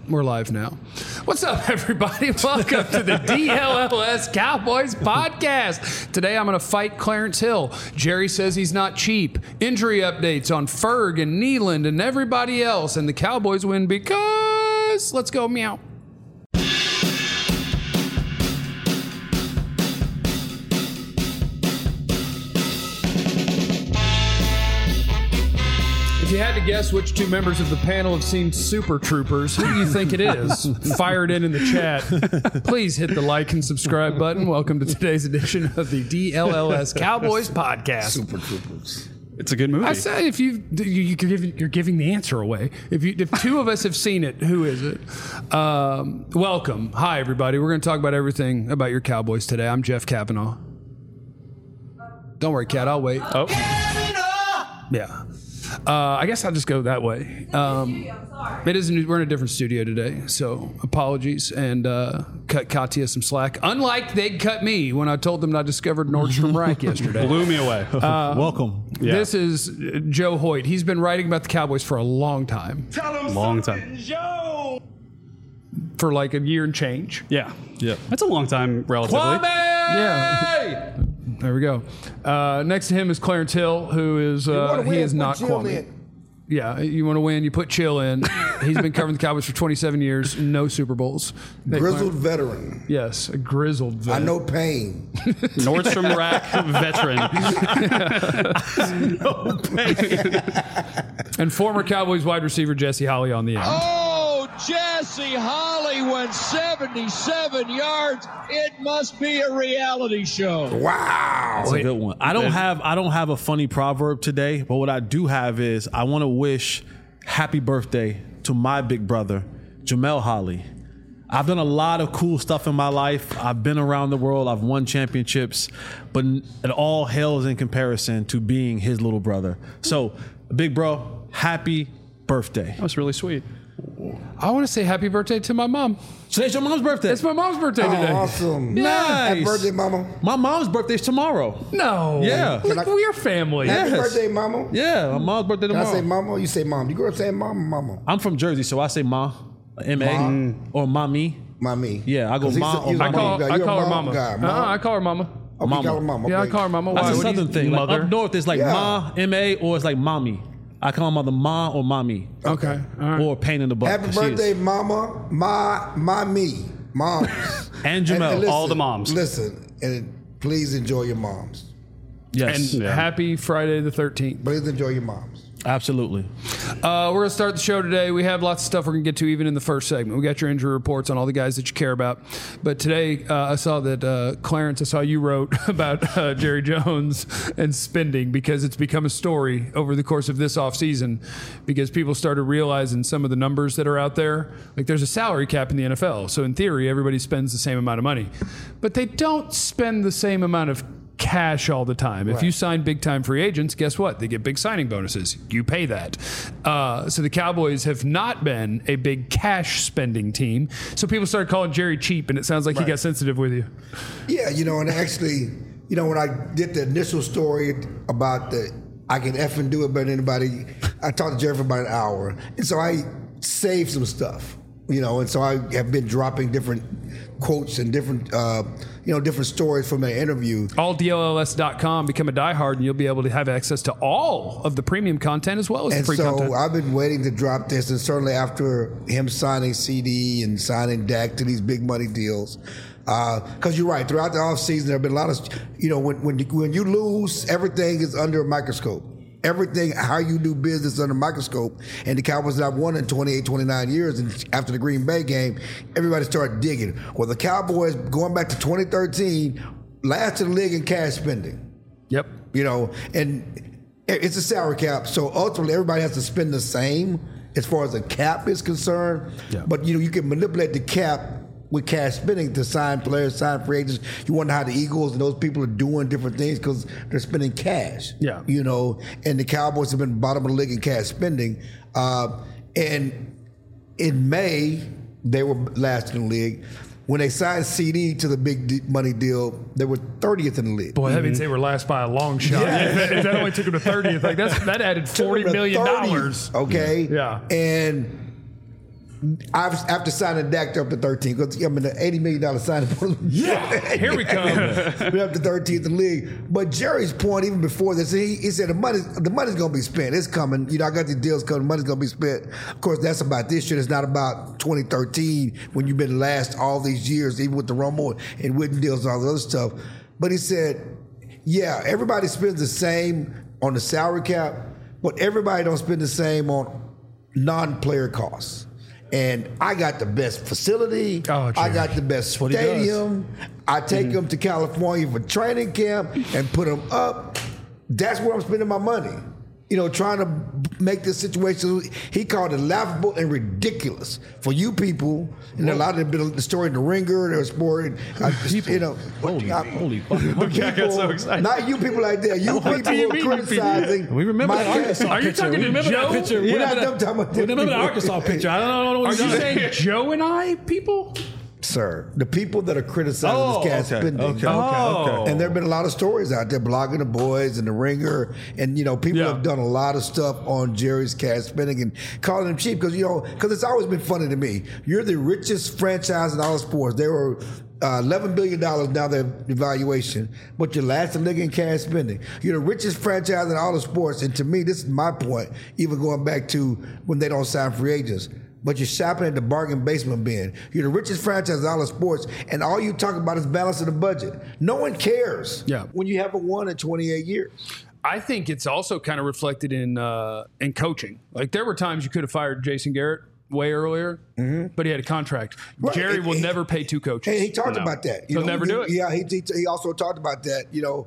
We're live now. What's up, everybody? Welcome to the DLLS Cowboys podcast. Today, I'm going to fight Clarence Hill. Jerry says he's not cheap. Injury updates on Ferg and Nealand and everybody else. And the Cowboys win because... Let's go, meow. If you had to guess which two members of the panel have seen Super Troopers, who do you think it is? Fire it in the chat. Please hit the like and subscribe button. Welcome to today's edition of the DLLS Cowboys podcast. Super Troopers. It's a good movie. I said if you're giving the answer away. If two of us have seen it, who is it? Welcome. Hi, everybody. We're going to talk about everything about your Cowboys today. I'm Jeff Kavanaugh. Don't worry, Kat. I'll wait. Oh. Yeah. I guess I'll just go that way. It isn't. We're in a different studio today, so apologies and cut Katya some slack. Unlike they cut me when I told them I discovered Nordstrom Rack yesterday. Blew me away. Welcome. Yeah. This is Joe Hoyt. He's been writing about the Cowboys for a long time. Long time. Joe. For like a year and change. Yeah. Yeah. That's a long time, relatively. Yeah. There we go. Next to him is Clarence Hill, who is he is not Kwame. Yeah, you want to win, you put Chill in. He's been covering the Cowboys for 27 years, no Super Bowls. Grizzled veteran. Yes, a grizzled veteran. I know pain. Nordstrom Rack veteran. No pain. And former Cowboys wide receiver Jesse Holley on the end. Oh, Jesse Holley went 77 yards. It must be a reality show. Wow. That's a good one. I don't have a funny proverb today, but what I do have is I want to wish happy birthday to my big brother, Jamel Holley. I've done a lot of cool stuff in my life. I've been around the world. I've won championships, but it all hails in comparison to being his little brother. So, big bro, happy birthday. That was really sweet. I want to say happy birthday to my mom. Today's your mom's birthday. It's my mom's birthday Oh, today. awesome. Nice. Happy birthday, mama. My mom's birthday's tomorrow. No. Yeah. Look, we're family. Happy Yes. birthday, mama. Yeah, my mom's birthday Can tomorrow. I say mama or you say mom? You grew up saying mama, mama. I'm from Jersey, so I say ma, M-A, or mommy. Mommy. Yeah, I go ma or I mommy. call You're a her mom mama. guy, mom. I call her mama. Oh, we call her mama. Yeah, I Okay. call her mama. That's Why? a What do you- southern thing. Like, mother? up north, it's like Yeah. ma, M-A, or it's like mommy. I call my mother ma or mommy. Okay. All right. Or pain in the butt. Happy 'cause she is. birthday, mama. Me. Moms. And Jamel. listen, all the moms. Listen, and please enjoy your moms. Yes, And happy Friday the 13th. Please enjoy your moms. absolutely. We're going to start the show today. We have lots of stuff we're going to get to even in the first segment. We got your injury reports on all the guys that you care about. But today I saw that Clarence, I saw you wrote about Jerry Jones and spending because it's become a story over the course of this offseason because people started realizing some of the numbers that are out there. Like there's a salary cap in the NFL. So in theory, everybody spends the same amount of money. But they don't spend the same amount of cash all the time. If you sign big time free agents, guess what? They get big signing bonuses. You pay that. So the Cowboys have not been a big cash spending team. So people started calling Jerry cheap, and it sounds like he got sensitive with you. Yeah, and actually, when I did the initial story about I can effing do it better than anybody, I talked to Jerry for about an hour. And so I saved some stuff, and so I have been dropping different quotes and different, different stories from that interview. AllDLLS.com, become a diehard, and you'll be able to have access to all of the premium content as well as And the free so content. I've been waiting to drop this, and certainly after him signing CD and signing Dak to these big money deals, because you're right. Throughout the offseason, there have been a lot of, when you lose, everything is under a microscope. Everything, how you do business under a microscope. And the Cowboys have won in 28, 29 years. And after the Green Bay game, everybody started digging. Well, the Cowboys, going back to 2013, last in the league in cash spending. Yep. And it's a salary cap. So ultimately, everybody has to spend the same as far as the cap is concerned. Yeah. But, you can manipulate the cap with cash spending to sign players, sign free agents. You wonder how the Eagles and those people are doing different things because they're spending cash. Yeah. And the Cowboys have been bottom of the league in cash spending. And in May, they were last in the league. When they signed CD to the big money deal, they were 30th in the league. Boy, that means they were last by a long shot. If that only took them to 30th, that added $40 million. Okay? Yeah. And after signing Dak up to 13, because I mean the $80 million signing. Here we come. We're up to 13th in the league. But Jerry's point, even before this, he said the money's going to be spent. It's coming. You know, I got these deals coming. The money's going to be spent. Of course, that's about this year. It's not about 2013 when you've been last all these years, even with the Romo and Witten deals and all the other stuff. But he said, yeah, everybody spends the same on the salary cap, but everybody don't spend the same on non-player costs. And I got the best facility. I got the best stadium. I take them to California for training camp and put them up. That's where I'm spending my money. You know, trying to make this situation, he called it laughable and ridiculous for you people. And a lot of the story in the Ringer, there was more, you know. Holy fuck. People, I got so excited. Not you people like that. You people who are criticizing. We remember my that Arkansas Are you picture. talking to Remember Joe? that picture? We're not them talking about that. Remember the Arkansas picture? I don't know what Are you're you saying Joe and I, people? Sir, the people that are criticizing this cat spending. Okay. And there have been a lot of stories out there, blogging the boys and the Ringer, and you know, people have done a lot of stuff on Jerry's cash spending and calling him cheap because it's always been funny to me. You're the richest franchise in all of sports. They were $11 billion now their evaluation, but you're last in the league in cash spending. You're the richest franchise in all of sports, and to me, this is my point. Even going back to when they don't sign free agents. But you're shopping at the bargain basement bin. You're the richest franchise in all of sports, and all you talk about is balancing the budget. No one cares when you haven't won in 28 years. I think it's also kind of reflected in coaching. Like there were times you could have fired Jason Garrett way earlier, but he had a contract. Right. Jerry will never pay two coaches. Hey, he talked about that. He'll never do it. Yeah, he also talked about that. You know,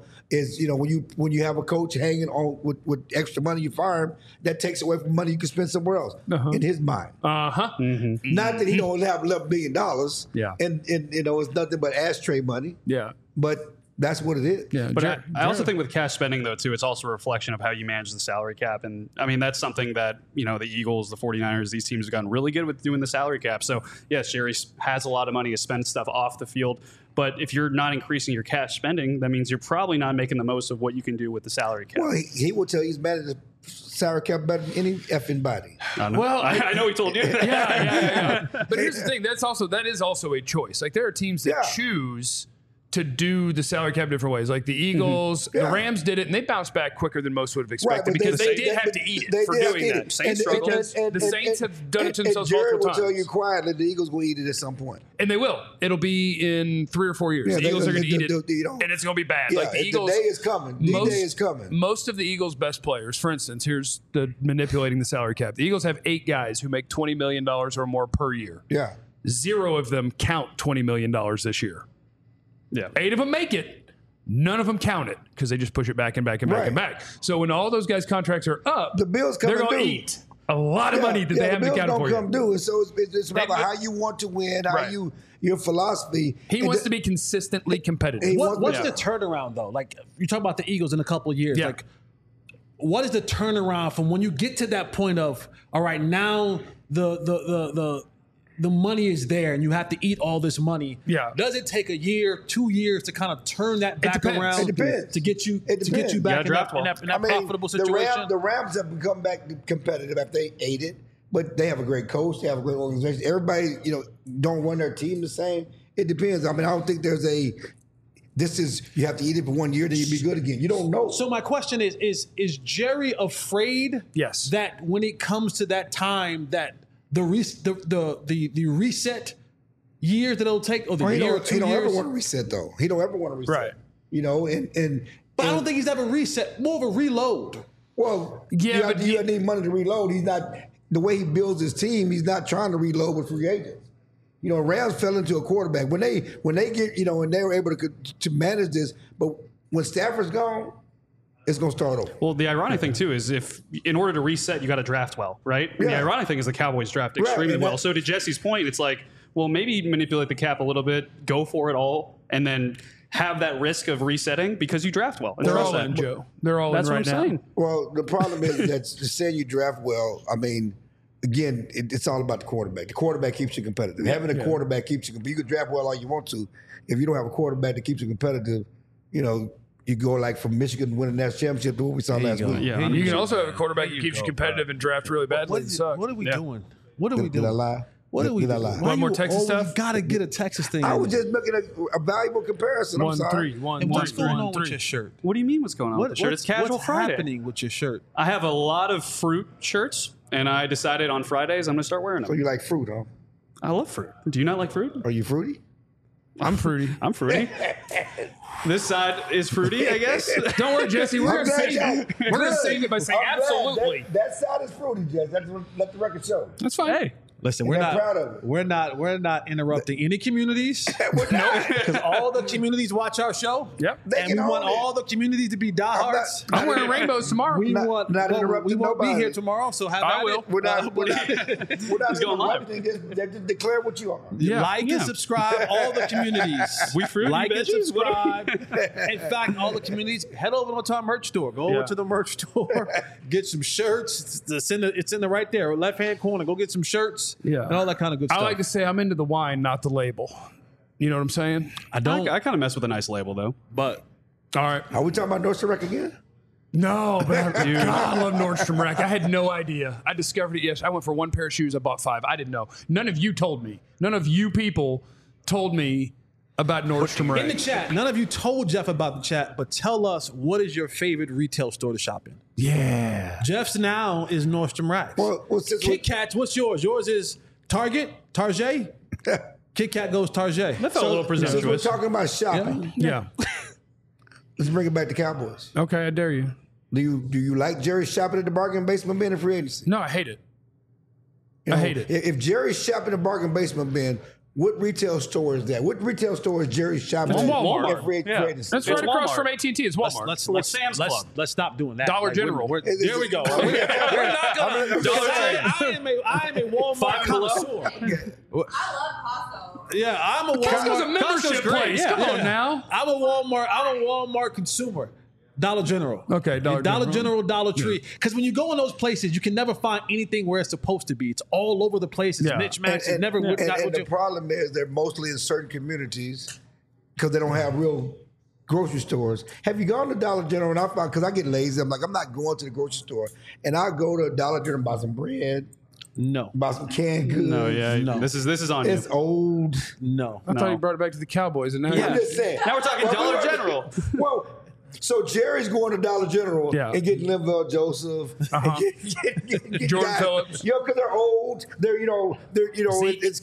when you have a coach hanging on with extra money, you fire him. That takes away from money you can spend somewhere else. In his mind, Not not that he don't have $11 billion. Yeah. and you know it's nothing but ashtray money. Yeah, but that's what it is. yeah. But I also think with cash spending, though, too, it's also a reflection of how you manage the salary cap. And, I mean, that's something that, you know, the Eagles, the 49ers, these teams have gotten really good with doing the salary cap. So, yes, Jerry has a lot of money to spend stuff off the field. But if you're not increasing your cash spending, that means you're probably not making the most of what you can do with the salary cap. Well, he will tell you he's managed the salary cap better than any effing body. Well, I know he told you that. yeah. But here's the thing: that is also a choice. Like there are teams that choose to do the salary cap different ways. Like the Eagles, the Rams did it, and they bounced back quicker than most would have expected because they did have to eat it for doing that. Saints struggled. The Saints have done it to themselves Jerry multiple will tell times. you quietly the Eagles will eat it at some point. And they will. It'll be in 3 or 4 years. Yeah, the Eagles are going to eat it, you know. and it's going to be bad. Yeah, like the Eagles, day is coming. The day is coming. Most of the Eagles' best players, for instance, here's the manipulating the salary cap. The Eagles have 8 guys who make $20 million or more per year. Yeah. 0 of them count $20 million this year. Yeah. 8 of them make it. None of them count it because they just push it back and back and back and back. So when all those guys' contracts are up, the bills they're going to eat a lot of money that they haven't accounted for yet. The bills don't come due. And so it's about They- how you want to win, how your philosophy. he wants to be consistently competitive. What's the turnaround though? Like you talk about the Eagles in a couple of years. Yeah. Like, what is the turnaround from when you get to that point of all right, now the money is there and you have to eat all this money. Yeah. Does it take a year, 2 years to kind of turn that back depends. around It depends. to get you It depends. back in draft that well. profitable situation? The Rams have become back competitive after they ate it, but they have a great coach. They have a great organization. Everybody, don't run their team the same. It depends. I mean, I don't think there's you have to eat it for 1 year, then you be good again. You don't know. So my question is Jerry afraid Yes. that when it comes to that time that the reset years that it'll take, or the he year or don't, 2 he don't ever years? want to reset though. He don't ever want to reset. Right. But I don't think he's ever reset. More of a reload. Well, Yeah, but you need money to reload. He's not the way he builds his team. He's not trying to reload with free agents. Rams fell into a quarterback when they get and they were able to manage this. But when Stafford's gone, it's going to start over. Well, the ironic thing, too, is if in order to reset, you got to draft well, right? And the ironic thing is the Cowboys draft extremely well. So to Jesse's point, it's like, well, maybe manipulate the cap a little bit, go for it all, and then have that risk of resetting because you draft well. They're all in, Joe. They're all That's in what right I'm now. saying. Well, the problem is that saying you draft well, I mean, again, it's all about the quarterback. The quarterback keeps you competitive. Having a quarterback keeps you competitive. You can draft well all you want to. If you don't have a quarterback that keeps you competitive, you go like from Michigan winning that championship to what we saw last week. Yeah, You can also have a quarterback who keeps you competitive and draft really badly and suck. What are we doing? What are we Did I doing? lie? What do we Did I do? lie? Why Want more you Texas always stuff? Gotta get a Texas thing. I in was there? just making a valuable comparison. I'm sorry. 1-3. And what's going on 1-3. with your shirt? What do you mean? What's going on with the shirt? It's casual what's Friday. happening with your shirt? I have a lot of fruit shirts, and I decided on Fridays I'm going to start wearing So them. you like fruit, huh? I love fruit. Do you not like fruit? Are you fruity? I'm fruity. I'm fruity. This side is fruity, I guess. Don't worry, Jesse. We're I'm going to glad save y'all- it. We're going to Good. save it by saying I'm glad. absolutely. That side is fruity, Jess. Let the record show. That's fine. Hey, Listen, And I'm proud of it. we're not interrupting any communities. We're not. Because all the communities watch our show. Yep. They And can we want own it. all the communities to be diehards. I'm wearing rainbows tomorrow. We Not- want not interrupting we won't nobody. be here tomorrow, so have I at will. it. We're not. We're not He's going live. interrupting. Just declare what you are. Yeah. Like Yeah. and subscribe all the communities. We fruity like and veggies? What are subscribe. In fact, all the communities, head over to our merch store. Go over Yeah. to the merch store, get some shirts. It's in the right there, left hand corner. Go get some shirts. Yeah. And all that kind of good I stuff. like to say I'm into the wine, not the label. You know what I'm saying? I don't, I kind of mess with a nice label, though. but All right. Are we talking about Nordstrom Rack again? No, but I love Nordstrom Rack. I had no idea. I discovered it yesterday. I went for one pair of shoes. I bought 5. I didn't know. None of you told me. None of you people told me about Nordstrom in the Rack. chat, none of you told Jeff about the chat, but tell us, what is your favorite retail store to shop in? Yeah. Jeff's now is Nordstrom Rack. Well, since Kit Kats, what's yours? Yours is Target, Target. Kit Kat goes Target. That felt a little since we're presumptuous. talking about shopping, Yeah. let's bring it back to Cowboys. Okay, I dare you. Do you like Jerry shopping at the bargain basement bin in free agency? No, I hate it. You I know, hate it. If Jerry's shopping at the bargain basement bin, what retail store is that? What retail store is Jerry shopping It's at? Walmart. at free Yeah. agency? That's It's right across Walmart. from AT&T. It's Walmart. Let's Sam's Club. let's stop doing that. Dollar Like, General. there we go. We're not gonna. I am a Walmart Five Below. connoisseur. I love Costco. Yeah, I'm a Costco's a Walmart. membership great, place. yeah. Come on now. I'm a Walmart consumer. Dollar General. Okay, Dollar General. General, Dollar Tree. Because when you go in those places, you can never find anything where it's supposed to be. It's all over the place. It's Yeah. mismatched. It's never and, not and what the you. problem is they're mostly in certain communities because they don't have real grocery stores. Have you gone to Dollar General? And I found, because I get lazy, I'm like, I'm not going to the grocery store. And I go to Dollar General and buy some bread, No, buy some canned goods. No, yeah. No. This is on It's you. old. no. I thought No. you brought it back to the Cowboys, and now I'm just saying. Now we're talking Dollar General. Well, so Jerry's going to Dollar General Yeah. and getting Linval Joseph, and get Jordan guys- Phillips. You know, because they're old. They're it's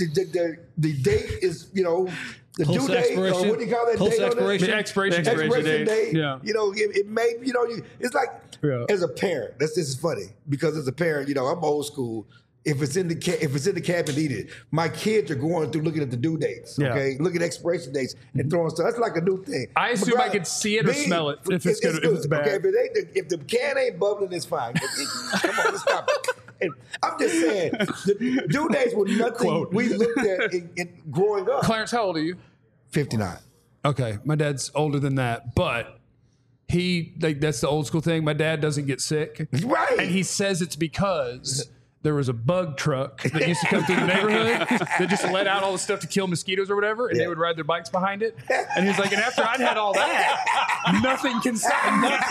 the date is the Close due to date. expiration. What do you call that Close date to on it? expiration. The expiration Expiration date. date. Yeah. It may it's like Yeah. as a parent. This is funny because as a parent, I'm old school. If it's in the cabinet, eat it. My kids are going through looking at the due dates, Yeah. okay, looking at expiration dates and throwing stuff. That's like a new thing. I assume I could see it or smell it if it's good, if it's bad. Okay, if the can ain't bubbling, it's fine. Come on, let's stop it. And I'm just saying, the due dates were nothing we looked at in growing up. Clarence, how old are you? 59. Okay, my dad's older than that, but that's the old school thing. My dad doesn't get sick, Right. and he says it's because there was a bug truck that used to come through the neighborhood that just let out all the stuff to kill mosquitoes or whatever, and they would ride their bikes behind it. And he's like, and after I'd had all that, nothing can stop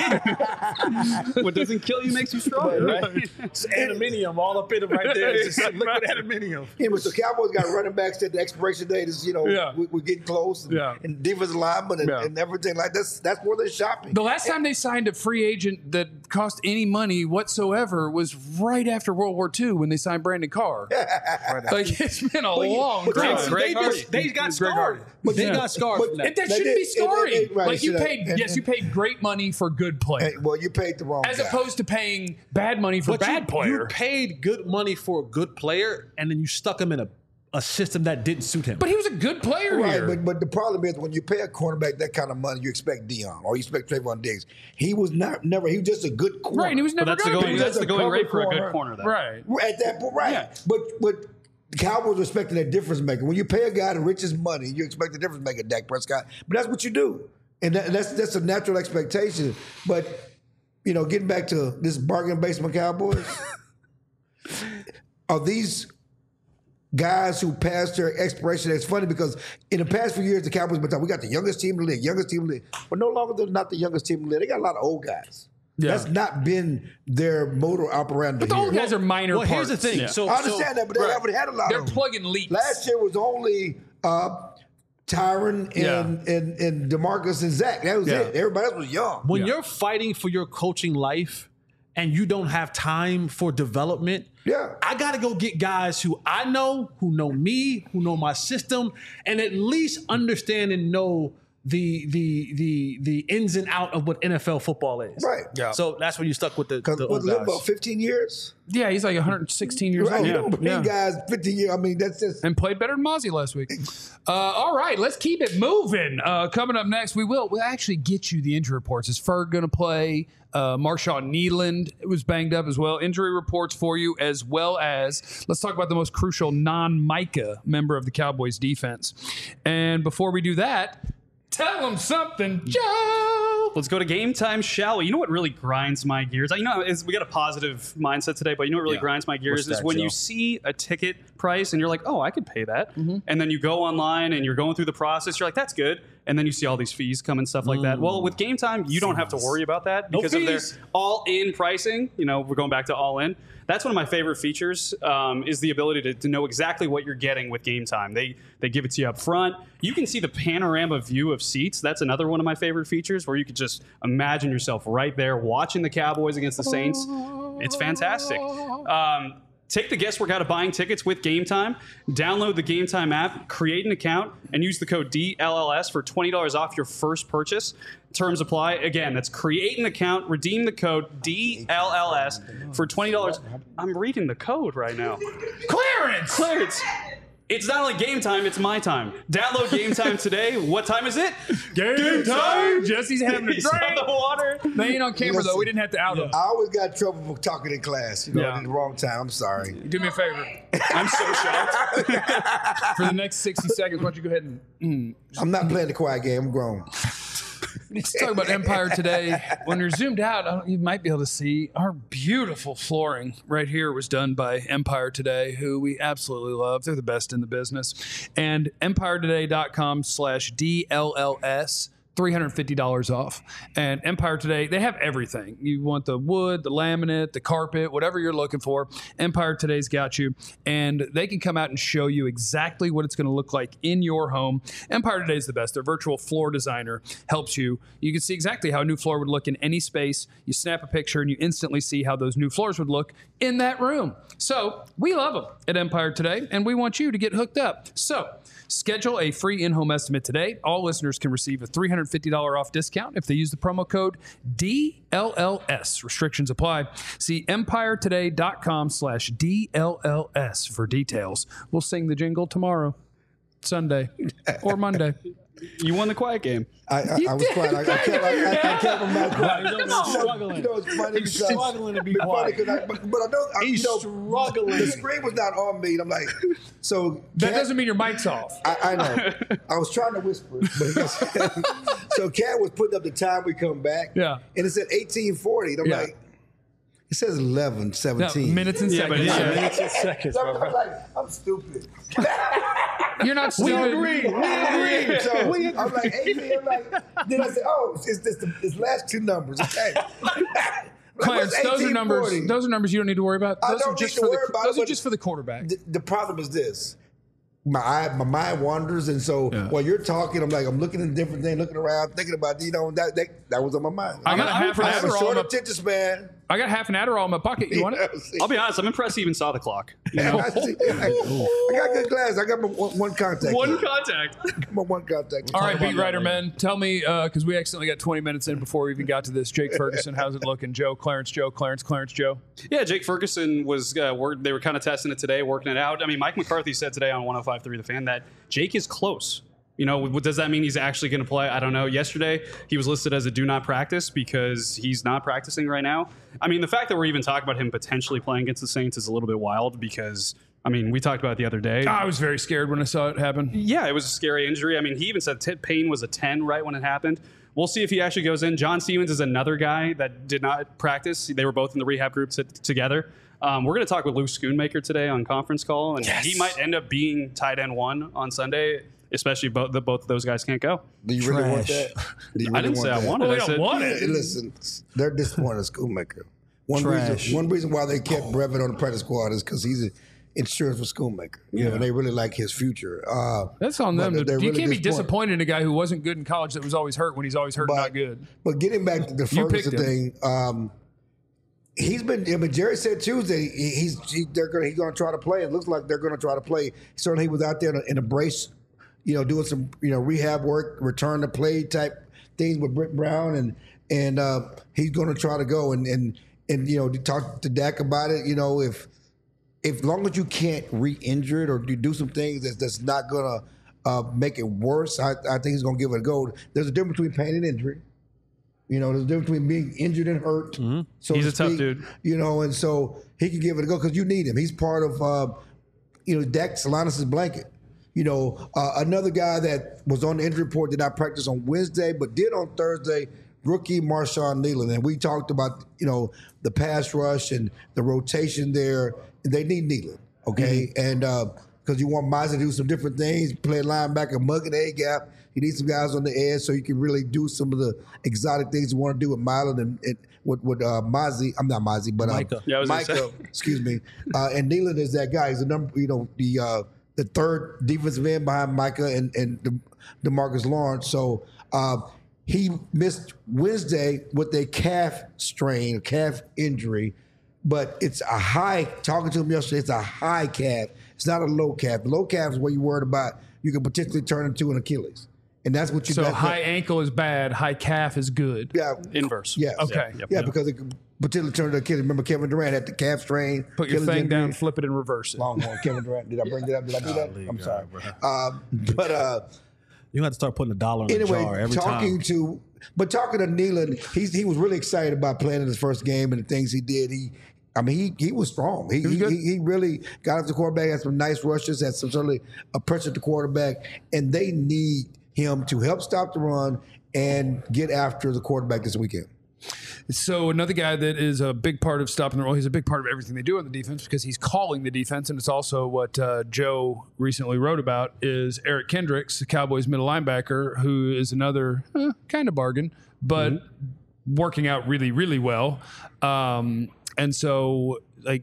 me. What doesn't kill you makes you stronger, right? It's aluminium all up in it right there. It's just liquid aluminium. Yeah, but so Cowboys got running backs that the expiration date is, Yeah. we're getting close, and, Yeah. and defensive linemen and, Yeah. and everything like that's where they're shopping. The last time they signed a free agent that cost any money whatsoever was right after World War II when they signed Brandon Carr. Like, it's been a long but time. Greg Hardy. They got Greg scarred. Hardy. But they Yeah. got scarred But from that. That They shouldn't be did- scoring. right, Like you should have. paid, And- yes, you paid great money for good player, Well, you paid the wrong as guy. opposed to paying bad money for But bad player. You paid good money for a good player, and then you stuck him in a system that didn't suit him. But he was a good player Right, here. but the problem is when you pay a cornerback that kind of money, you expect Dion or you expect Trayvon Diggs. He was never. He was just a good corner. Right, and he was But never that's the going to going be. that's the going cover rate for a corner. good corner, though. Right. At that point, right? Yeah. But the Cowboys are expecting a difference maker. When you pay a guy the richest money, you expect a difference maker, Dak Prescott. But that's what you do, and that's a natural expectation. But getting back to this bargain basement Cowboys, are these guys who passed their expiration? It's funny because in the past few years, the Cowboys been talking, we got the youngest team in the league, but no longer they're not the youngest team in the league. They got a lot of old guys. That's not been their motor operandi. But all here. the guys are minor Well, parts. here's the thing. Yeah. So I understand that, but they haven't had a lot They're of them. plugging leaks. Last year was only Tyron and DeMarcus and Zach. That was it. Everybody else was young. when you're fighting for your coaching life and you don't have time for development, I got to go get guys who I know, who know me, who know my system, and at least understand and know the ins and out of what NFL football is. Right. Yeah. So that's when you stuck with the What, old live guys. about 15 years? Yeah, he's like 116 years Right. old. You don't bring guys 15 years. I mean, that's just. And played better than Mozzie last week. All right, let's keep it moving. Coming up next, we'll actually get you the injury reports. Is Ferg going to play? Marshawn Nealand was banged up as well. Injury reports for you, as well as let's talk about the most crucial non-Micah member of the Cowboys defense. And before we do that, tell them something, Joe. Let's go to Game Time, shall we? You know what really grinds my gears? We got a positive mindset today, but you know what really grinds my gears What's is that, when Joe? you see a ticket price and you're like, oh, I could pay that. And then you go online and you're going through the process. You're like, that's good. And then you see all these fees come and stuff like that. Well, with Game Time, you don't have to worry about that because of their fees. all-in pricing. You know, we're going back to all-in. That's one of my favorite features is the ability to know exactly what you're getting with Game Time. They give it to you up front. You can see the panorama view of seats. That's another one of my favorite features where you could just imagine yourself right there watching the Cowboys against the Saints. It's fantastic. Take the guesswork out of buying tickets with Game Time. Download the Game Time app, create an account, and use the code DLLS for $20 off your first purchase. Terms apply. Again, that's create an account, redeem the code DLLS for $20. I'm reading the code right now. Clarence! It's not only Game Time, it's my time. Download Game Time today. What time is it? Game time. Jesse's having a He's on drink. the water. They ain't on camera, though. We didn't have to out him. I always got trouble for talking in class. You know, Yeah. at the wrong time. I'm sorry. Do me a favor. I'm so shocked. For the next 60 seconds, why don't you go ahead and... I'm not playing the quiet game. I'm grown. Let's talk about Empire today. When you're zoomed out, you might be able to see our beautiful flooring right here was done by Empire Today, who we absolutely love. They're the best in the business. And EmpireToday.com/DLLS. $350 off. And Empire Today, they have everything. You want the wood, the laminate, the carpet, whatever you're looking for, Empire Today's got you. And they can come out and show you exactly what it's going to look like in your home. Empire Today is the best. Their virtual floor designer helps you. You can see exactly how a new floor would look in any space. You snap a picture and you instantly see how those new floors would look in that room. So we love them at Empire Today, and we want you to get hooked up. So schedule a free in-home estimate today. All listeners can receive a $350 off discount if they use the promo code DLLS. Restrictions apply. See EmpireToday.com/DLLS for details. We'll sing the jingle tomorrow, Sunday, or Monday. You won the quiet game. I was quiet. I kept him not quiet. struggling. You know, it's funny He's because struggling to be it's funny quiet. 'cause but I know He's you know, struggling. The screen was not on me. And I'm like, so That Cat- doesn't mean your mic's off. I know. I was trying to whisper, but so Cat was putting up the time we come back. Yeah. And it said 1840. And I'm Yeah. like, it says 11:17. No, minutes and seconds. minutes and seconds, So I'm bro. like, I'm stupid. You're not We stupid. agree. So I'm like, 18. I'm like, then I said, oh, it's last two numbers. Okay. Clarence, What's those are numbers. 1840? Those are numbers you don't need to worry about. I Those are don't just need for to the. worry about Those it, are but just for the quarterback. The problem is this. My mind wanders, and so while you're talking, I'm looking at different things, looking around, thinking about, that was on my mind. I got a half an I have a Adderall. short in my- attention span. I got half an Adderall in my pocket. You want it? I'll be honest, I'm impressed he even saw the clock. You know? I got good glasses. I got my one contact. One contact. My one contact. All right, beat writer men, tell me because we accidentally got 20 minutes in before we even got to this. Jake Ferguson, how's it looking? Joe, Clarence, Joe, Clarence, Joe. Yeah, Jake Ferguson was they were kind of testing it today, working it out. I mean, Mike McCarthy said today on 105.3 The Fan that Jake is close. You know, does that mean he's actually going to play? I don't know. Yesterday, he was listed as a do not practice because he's not practicing right now. I mean, the fact that we're even talking about him potentially playing against the Saints is a little bit wild because, I mean, we talked about it the other day. I was very scared when I saw it happen. Yeah, it was a scary injury. I mean, he even said pain was a 10 right when it happened. We'll see if he actually goes in. John Stevens is another guy that did not practice. They were both in the rehab group together. We're going to talk with Lou Schoonmaker today on conference call, and he might end up being tight end one on Sunday. especially both of those guys can't go. Do you really want Trash. that? Do you I didn't say I wanted. Well, I we don't said want Hey, listen, they're disappointed in Schoonmaker. One Trash. reason why they kept Brevin on the practice squad is because he's insurance for Schoonmaker. You know, and they really like his future. That's on but them. they're You really can't be disappointed in a guy who wasn't good in college that was always hurt when he's always hurt and not good. But getting back to the You picked Ferguson thing, he's been. I mean, Jerry said Tuesday he's going to try to play. It looks like they're going to try to play. Certainly, he was out there in a brace, doing some rehab work, return to play type things with Britt Brown, and he's going to try to go and talk to Dak about it. If long as you can't re-injure it or you do some things that's not going to make it worse, I think he's going to give it a go. There's a difference between pain and injury. There's a difference between being injured and hurt. Mm-hmm. So He's to a tough speak, dude. And so he can give it a go because you need him. He's part of, Dak Solanas' blanket. Another guy that was on the injury report did not practice on Wednesday, but did on Thursday, rookie Marshawn Nealon. And we talked about, the pass rush and the rotation there. They need Nealon, okay? And because you want Miles to do some different things, play linebacker, mug in the A-gap. You need some guys on the edge so you can really do some of the exotic things you want to do with Milan and with Mozzie. I'm not Mozzie, but Micah. Yeah, I was gonna Micah, say. excuse me. And Nealon is that guy. He's the number, the third defensive end behind Micah and DeMarcus Lawrence. So he missed Wednesday with a calf injury, but it's a high. Talking to him yesterday, it's a high calf. It's not a low calf. The low calf is what you're worried about. You can potentially turn into an Achilles, and that's what you. So high ankle is bad, high calf is good. Yeah, Inverse. Yes. Okay. Yeah, because it could potentially turn into Achilles. Remember, Kevin Durant had the calf strain. Put your Achilles thing injury. down, flip it, and reverse it. Longhorn, Kevin Durant. Did I bring that up? Did I do that? I'm sorry. You have to start putting $1 in the Anyway, jar every talking time. to Nealon, he was really excited about playing in his first game and the things he did. He was strong. He really got up the quarterback, had some nice rushes, had some certainly a pressure at the quarterback, and they need him to help stop the run and get after the quarterback this weekend. So another guy that is a big part of stopping the roll, he's a big part of everything they do on the defense because he's calling the defense, and it's also what Joe recently wrote about is Eric Kendricks, the Cowboys middle linebacker, who is another kind of bargain, but working out really, really well. And so,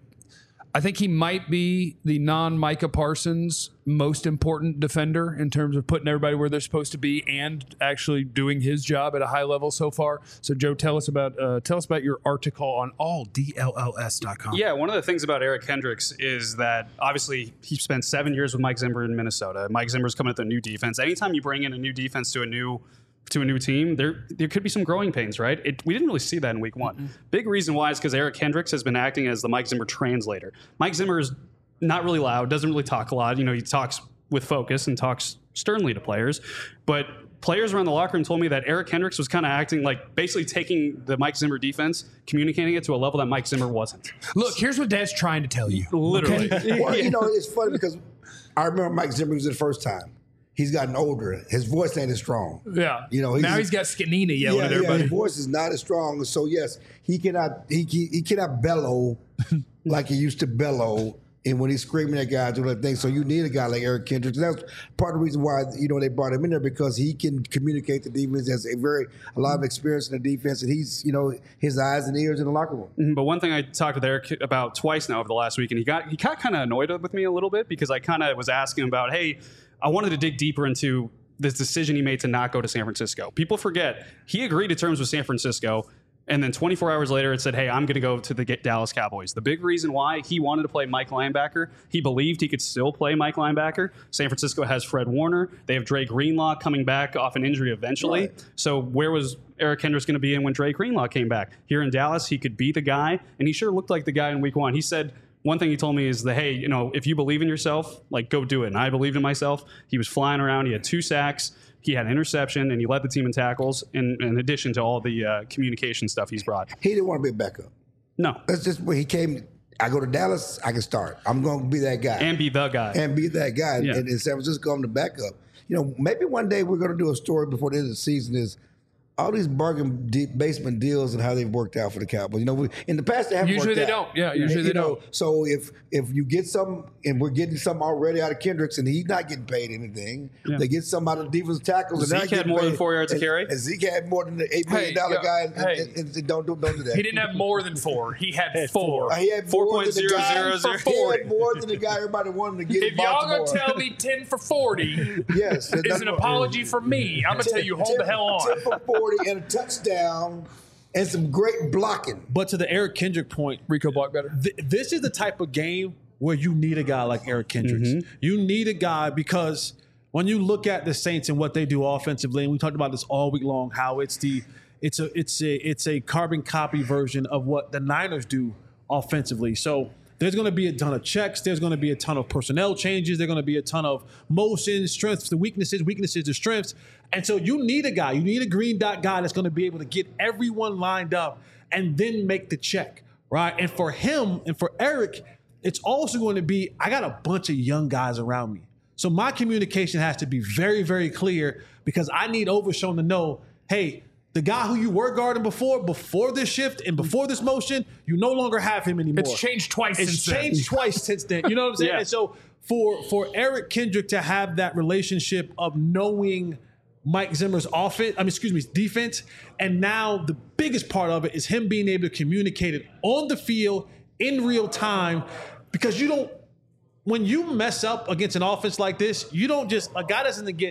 I think he might be the non-Micah Parsons most important defender in terms of putting everybody where they're supposed to be and actually doing his job at a high level so far. So, Joe, tell us about your article on alldlls.com. Yeah, one of the things about Eric Kendricks is that obviously he spent 7 years with Mike Zimmer in Minnesota. Mike Zimmer's coming with a new defense. Anytime you bring in a new defense to a new team, there could be some growing pains, right? We didn't really see that in week one. Mm-hmm. Big reason why is because Eric Kendricks has been acting as the Mike Zimmer translator. Mike Zimmer is not really loud, doesn't really talk a lot. He talks with focus and talks sternly to players. But players around the locker room told me that Eric Kendricks was kind of acting like basically taking the Mike Zimmer defense, communicating it to a level that Mike Zimmer wasn't. Look, here's what Dad's trying to tell you. Literally. Okay? Well, it's funny because I remember Mike Zimmer was the first time. He's gotten older. His voice ain't as strong. Yeah. Now he's got Scanina yelling at everybody. His voice is not as strong. So yes, he cannot bellow like he used to bellow. And when he's screaming at guys, doing that thing. So you need a guy like Eric Kendricks. And that's part of the reason why they brought him in there because he can communicate the defense. Has a lot of experience in the defense, and he's his eyes and ears in the locker room. But one thing I talked with Eric about twice now over the last week, and he got kind of annoyed with me a little bit because I kind of was asking him about, hey, I wanted to dig deeper into this decision he made to not go to San Francisco. People forget he agreed to terms with San Francisco, and then 24 hours later it said, hey, I'm going to go to the Dallas Cowboys. The big reason why he wanted to play Mike linebacker, he believed he could still play Mike linebacker. San Francisco has Fred Warner. They have Dre Greenlaw coming back off an injury eventually. Right. So where was Eric Kendricks going to be in when Dre Greenlaw came back? Here in Dallas, he could be the guy, and he sure looked like the guy in week one. He said, one thing he told me is that, hey, if you believe in yourself, go do it. And I believed in myself. He was flying around. He had 2 sacks. He had an interception, and he led the team in tackles in addition to all the communication stuff he's brought. He didn't want to be a backup. No. That's just when he came. I go to Dallas, I can start. I'm going to be that guy. And be the guy. Yeah. And in San Francisco, I'm the backup. Maybe one day we're going to do a story before the end of the season is all these bargain basement deals and how they've worked out for the Cowboys. You know, in the past they haven't Usually worked they out. don't. Yeah, usually they don't. So if you get some, and we're getting some already out of Kendricks, and he's not getting paid anything, they get some out of the defensive tackles. And Zeke had more than 4 yards of carry. And Zeke had more than the $8 million guy. And don't do that. He didn't have more than 4. He had 4. He had more than the guy. He had more than the guy everybody wanted to get. If y'all gonna tell me 10 for 40, yes, is an apology for me. I'm gonna tell you, hold the hell on. 10 for 40 and a touchdown and some great blocking. But to the Eric Kendrick point, Rico blocked better. This is the type of game where you need a guy like Eric Kendricks. You need a guy because when you look at the Saints and what they do offensively, and we talked about this all week long, how it's a carbon copy version of what the Niners do offensively. So there's going to be a ton of checks. There's going to be a ton of personnel changes. There's going to be a ton of motions, strengths to weaknesses to strengths. And so you need a guy. You need a green dot guy that's going to be able to get everyone lined up and then make the check, right? And for him and for Eric, it's also going to be, I got a bunch of young guys around me. So my communication has to be very, very clear because I need Overshown to know, hey, the guy who you were guarding before this shift and before this motion, you no longer have him anymore. It's changed twice since then. It's changed twice since then. You know what I'm saying? Yeah. And so for Eric Kendrick to have that relationship of knowing Mike Zimmer's defense, and now the biggest part of it is him being able to communicate it on the field in real time, because when you mess up against an offense like this, you don't just, a guy doesn't get,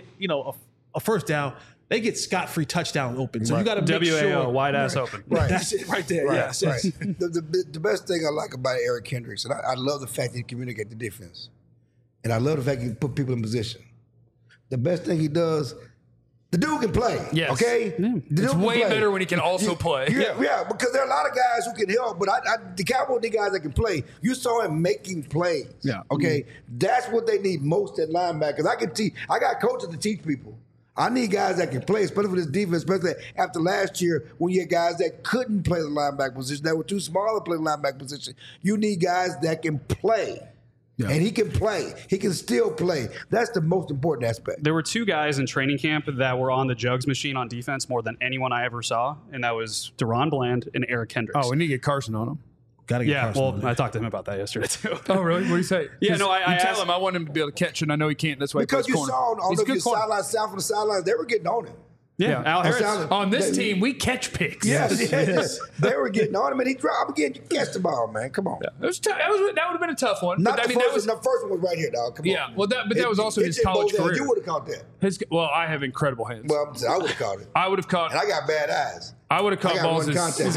a first down. They get scot-free touchdown open. So you got to make sure. wide ass open. Right. That's it right there. Right, Yes. right. The best thing I like about Eric Kendricks, and I love the fact that he communicates the defense. And I love the fact he put people in position. The best thing he does, the dude can play. Yes. Okay? Yeah. It's way better when he can also play. Yeah, because there are a lot of guys who can help, but the Cowboys need guys that can play. You saw him making plays. Yeah. Okay? That's what they need most at linebackers. I got coaches to teach people. I need guys that can play, especially for this defense, especially after last year when you had guys that couldn't play the linebacker position, that were too small to play the linebacker position. You need guys that can play. Yeah. And he can play. He can still play. That's the most important aspect. There were 2 guys in training camp that were on the jugs machine on defense more than anyone I ever saw, and that was Deron Bland and Eric Kendricks. Oh, we need to get Carson on him. Got to get yeah, Carson well, on I talked to him about that yesterday, too. Oh, really? What do you say? Yeah, no, I tell asked him I want him to be able to catch, and I know he can't. That's why because he plays you corner. saw on He's a good corner. sidelines, south of the sidelines, they were getting on him. Yeah, Al Harris. On this team, we catch picks. Yes. They were getting on him, and he dropped again. You catch the ball, man. Come on. Yeah. That would have been a tough one. Not but, the first one. The first one was right here, dog. Come on. Yeah, well, that was also his college career. You would have caught that. Well, I have incredible hands. Well, I would have caught it. I would have caught. And I got bad eyes. I would have caught balls. One contact.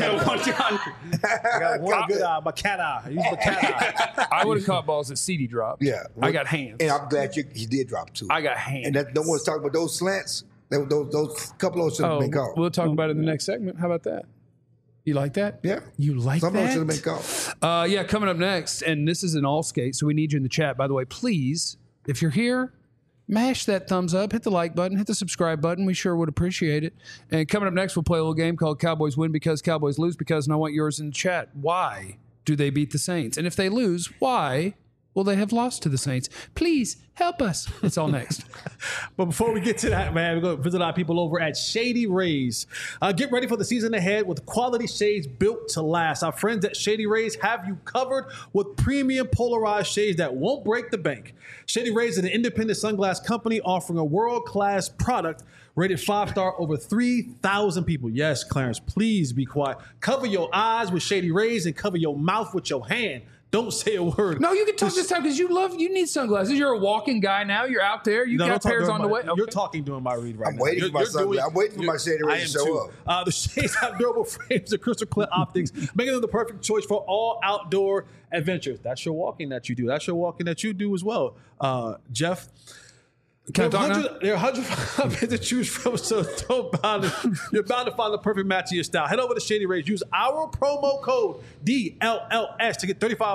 I got one good eye, my cat eye. Use my cat eye. I would have caught balls that CD dropped. Yeah. I got hands. And I'm glad he did drop 2. I got hands. And no one's talking about those slants. Those couple of those should have been called. We'll talk about it in the next segment. How about that? You like that? Yeah. You like Some that? of them should have been called. Yeah, coming up next, and this is an all skate, so we need you in the chat. By the way, please, if you're here, mash that thumbs up, hit the like button, hit the subscribe button. We sure would appreciate it. And coming up next, we'll play a little game called Cowboys Win Because, Cowboys Lose Because, and I want yours in the chat. Why do they beat the Saints? And if they lose, why will they have lost to the Saints? Please help us. It's all next. But before we get to that, man, we're going to visit our people over at Shady Rays. Get ready for the season ahead with quality shades built to last. Our friends at Shady Rays have you covered with premium polarized shades that won't break the bank. Shady Rays is an independent sunglass company offering a world-class product rated 5-star over 3,000 people. Yes, Clarence, please be quiet. Cover your eyes with Shady Rays and cover your mouth with your hand. Don't say a word. No, you can talk this time because you need sunglasses. You're a walking guy now. You're out there. You got pairs on the way. You're talking during my read right I'm now. waiting for my sunglasses. I'm waiting for my Shady Rays to show up. The shades have durable frames and crystal clear optics, making them the perfect choice for all outdoor adventures. That's your walking that you do. That's your walking that you do as well. Jeff, there are 105 to choose from, so you're bound to find the perfect match to your style. Head over to Shady Rays. Use our promo code DLLS to get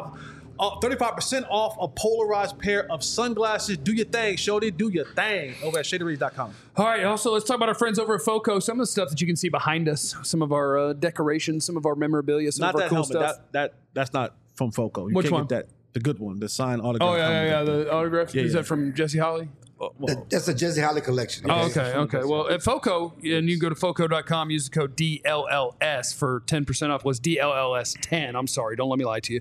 35% off a polarized pair of sunglasses. Do your thing, Shorty. Do your thing over at ShadyRays.com. All right. Also, let's talk about our friends over at FOCO. Some of the stuff that you can see behind us, some of our decorations, some of our memorabilia, some of our cool stuff. That's not from FOCO. Which one? Get that. The good one, the signed autograph. Oh, yeah. The autograph. Is that from Jesse Holly? That's a Jesse Holly collection. Oh, okay. Well, at FOCO, and you can go to FOCO.com, use the code DLLS for 10% off. Was DLLS10. I'm sorry. Don't let me lie to you.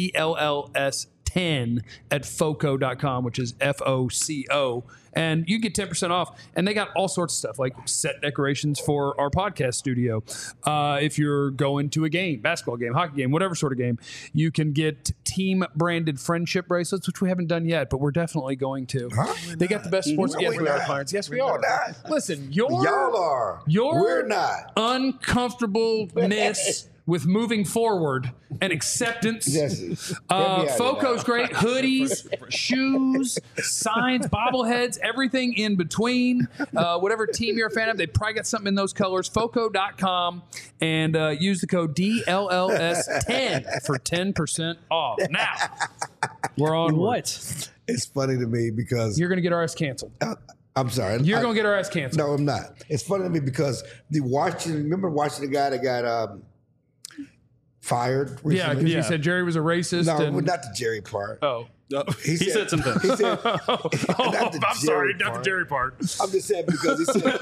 DLLS10 at FOCO.com, which is FOCO. And you get 10% off. And they got all sorts of stuff, like set decorations for our podcast studio. If you're going to a game, basketball game, hockey game, whatever sort of game, you can get team-branded friendship bracelets, which we haven't done yet, but we're definitely going to. They got the best sports. Yes, we are, Clarence. Yes, we are. Listen, y'all are. We're not. Uncomfortableness with moving forward and acceptance. FOCO's great. Hoodies, shoes, signs, bobbleheads, everything in between. Whatever team you're a fan of, they probably got something in those colors. FOCO.com and use the code DLLS10 for 10% off. Now, we're on what? It's funny to me because you're going to get our ass canceled. I'm sorry. You're going to get our ass canceled. No, I'm not. It's funny to me because remember watching the guy that got fired recently? Yeah, because you said Jerry was a racist. No, not the Jerry part. Oh. He said something. He said, I'm sorry, not the Jerry part. I'm just saying because he said.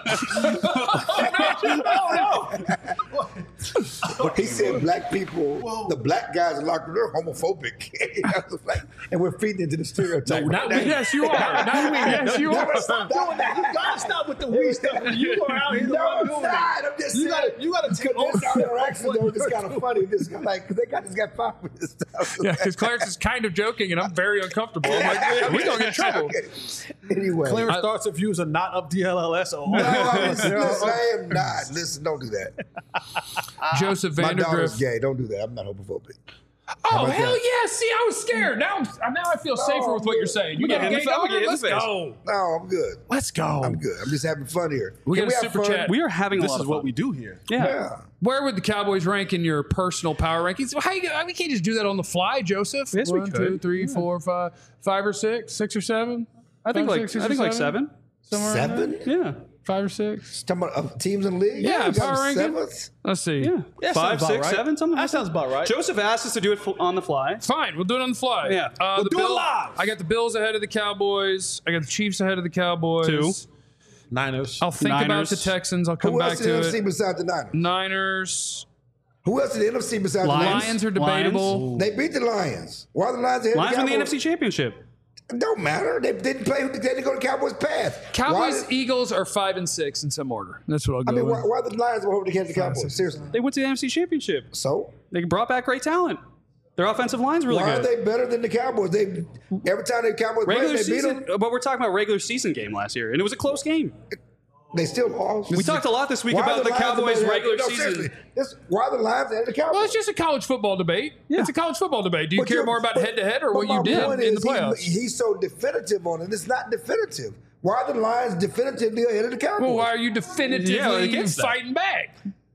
He said black people, the black guys in locker room, they're homophobic. And we're feeding into the stereotype. No, not we. Yes, you are. Not we. Yes, you are. Stop doing that. You gotta stop with the we stuff. You are out here doing that. I'm just saying. You gotta take this our interaction though. It's kind of funny. This like they just got fired with this stuff. Yeah, because Clarence is kind of joking, and I'm very uncomfortable. I'm like, we're gonna get in trouble. Okay. Anyway, Clarence thoughts and views are not of DLLS. No, I am not. Listen, don't do that. Joseph My daughter's Vandergriff. gay. Don't do that. I'm not homophobic. Oh, hell yeah. See, I was scared. Now I feel safer with what you're saying. You got a gay daughter? Let's go. No, I'm good. Let's go. I'm good. I'm just having fun here. We Can got a have super fun? chat. We are having a This lot is of what fun. we do here. Yeah. Where would the Cowboys rank in your personal power rankings? Well, we can't just do that on the fly, Joseph. Yes, we 1, could. 2, 3, 4, 5, 5 or 6, 6 or 7. I think like 6 or 7. Somewhere around there? 7? Yeah. 5 or 6. Talking about teams in the league? Yeah, You got power ranking. seventh? Let's see. Yeah. Yeah, 5, sounds 6, about right. 7, something like That sounds about right. Joseph asked us to do it on the fly. Fine, we'll do it on the fly. Yeah. The do it live. I got the Bills ahead of the Cowboys. I got the Chiefs ahead of the Cowboys. 2. Niners. I'll think about Niners. the Texans. I'll come Who back else in the to NFC it. besides the Niners? Niners. Who else in the NFC besides the Lions? Lions are debatable. They beat the Lions. Why are the Lions ahead Lions of won the the Cowboys? NFC Championship. It don't matter. They didn't play. They didn't go to Cowboys' path. Cowboys, Why, Eagles are 5 and 6 in some order. That's what I'll go I mean, with. why the Lions were over the Cowboys? Seriously. They went to the NFC Championship. So They brought back great talent. Their offensive line's really why good. are they better than the Cowboys? They every time the Cowboys Regular played, they beat season, them. but we're talking about regular season game last year, and it was a close game. They still lost. We talked a lot this week Why are about the Lions Cowboys' better? regular No, season. seriously. Why are the Lions and the Cowboys? Well, it's just a college football debate. Yeah. It's a college football debate. Do you But care you're- more about but- head-to-head or but what my you did point in the is playoffs? He's so definitive on it. It's not definitive. Why are the Lions definitively ahead of the Cowboys? Well, why are you definitively against that. fighting back?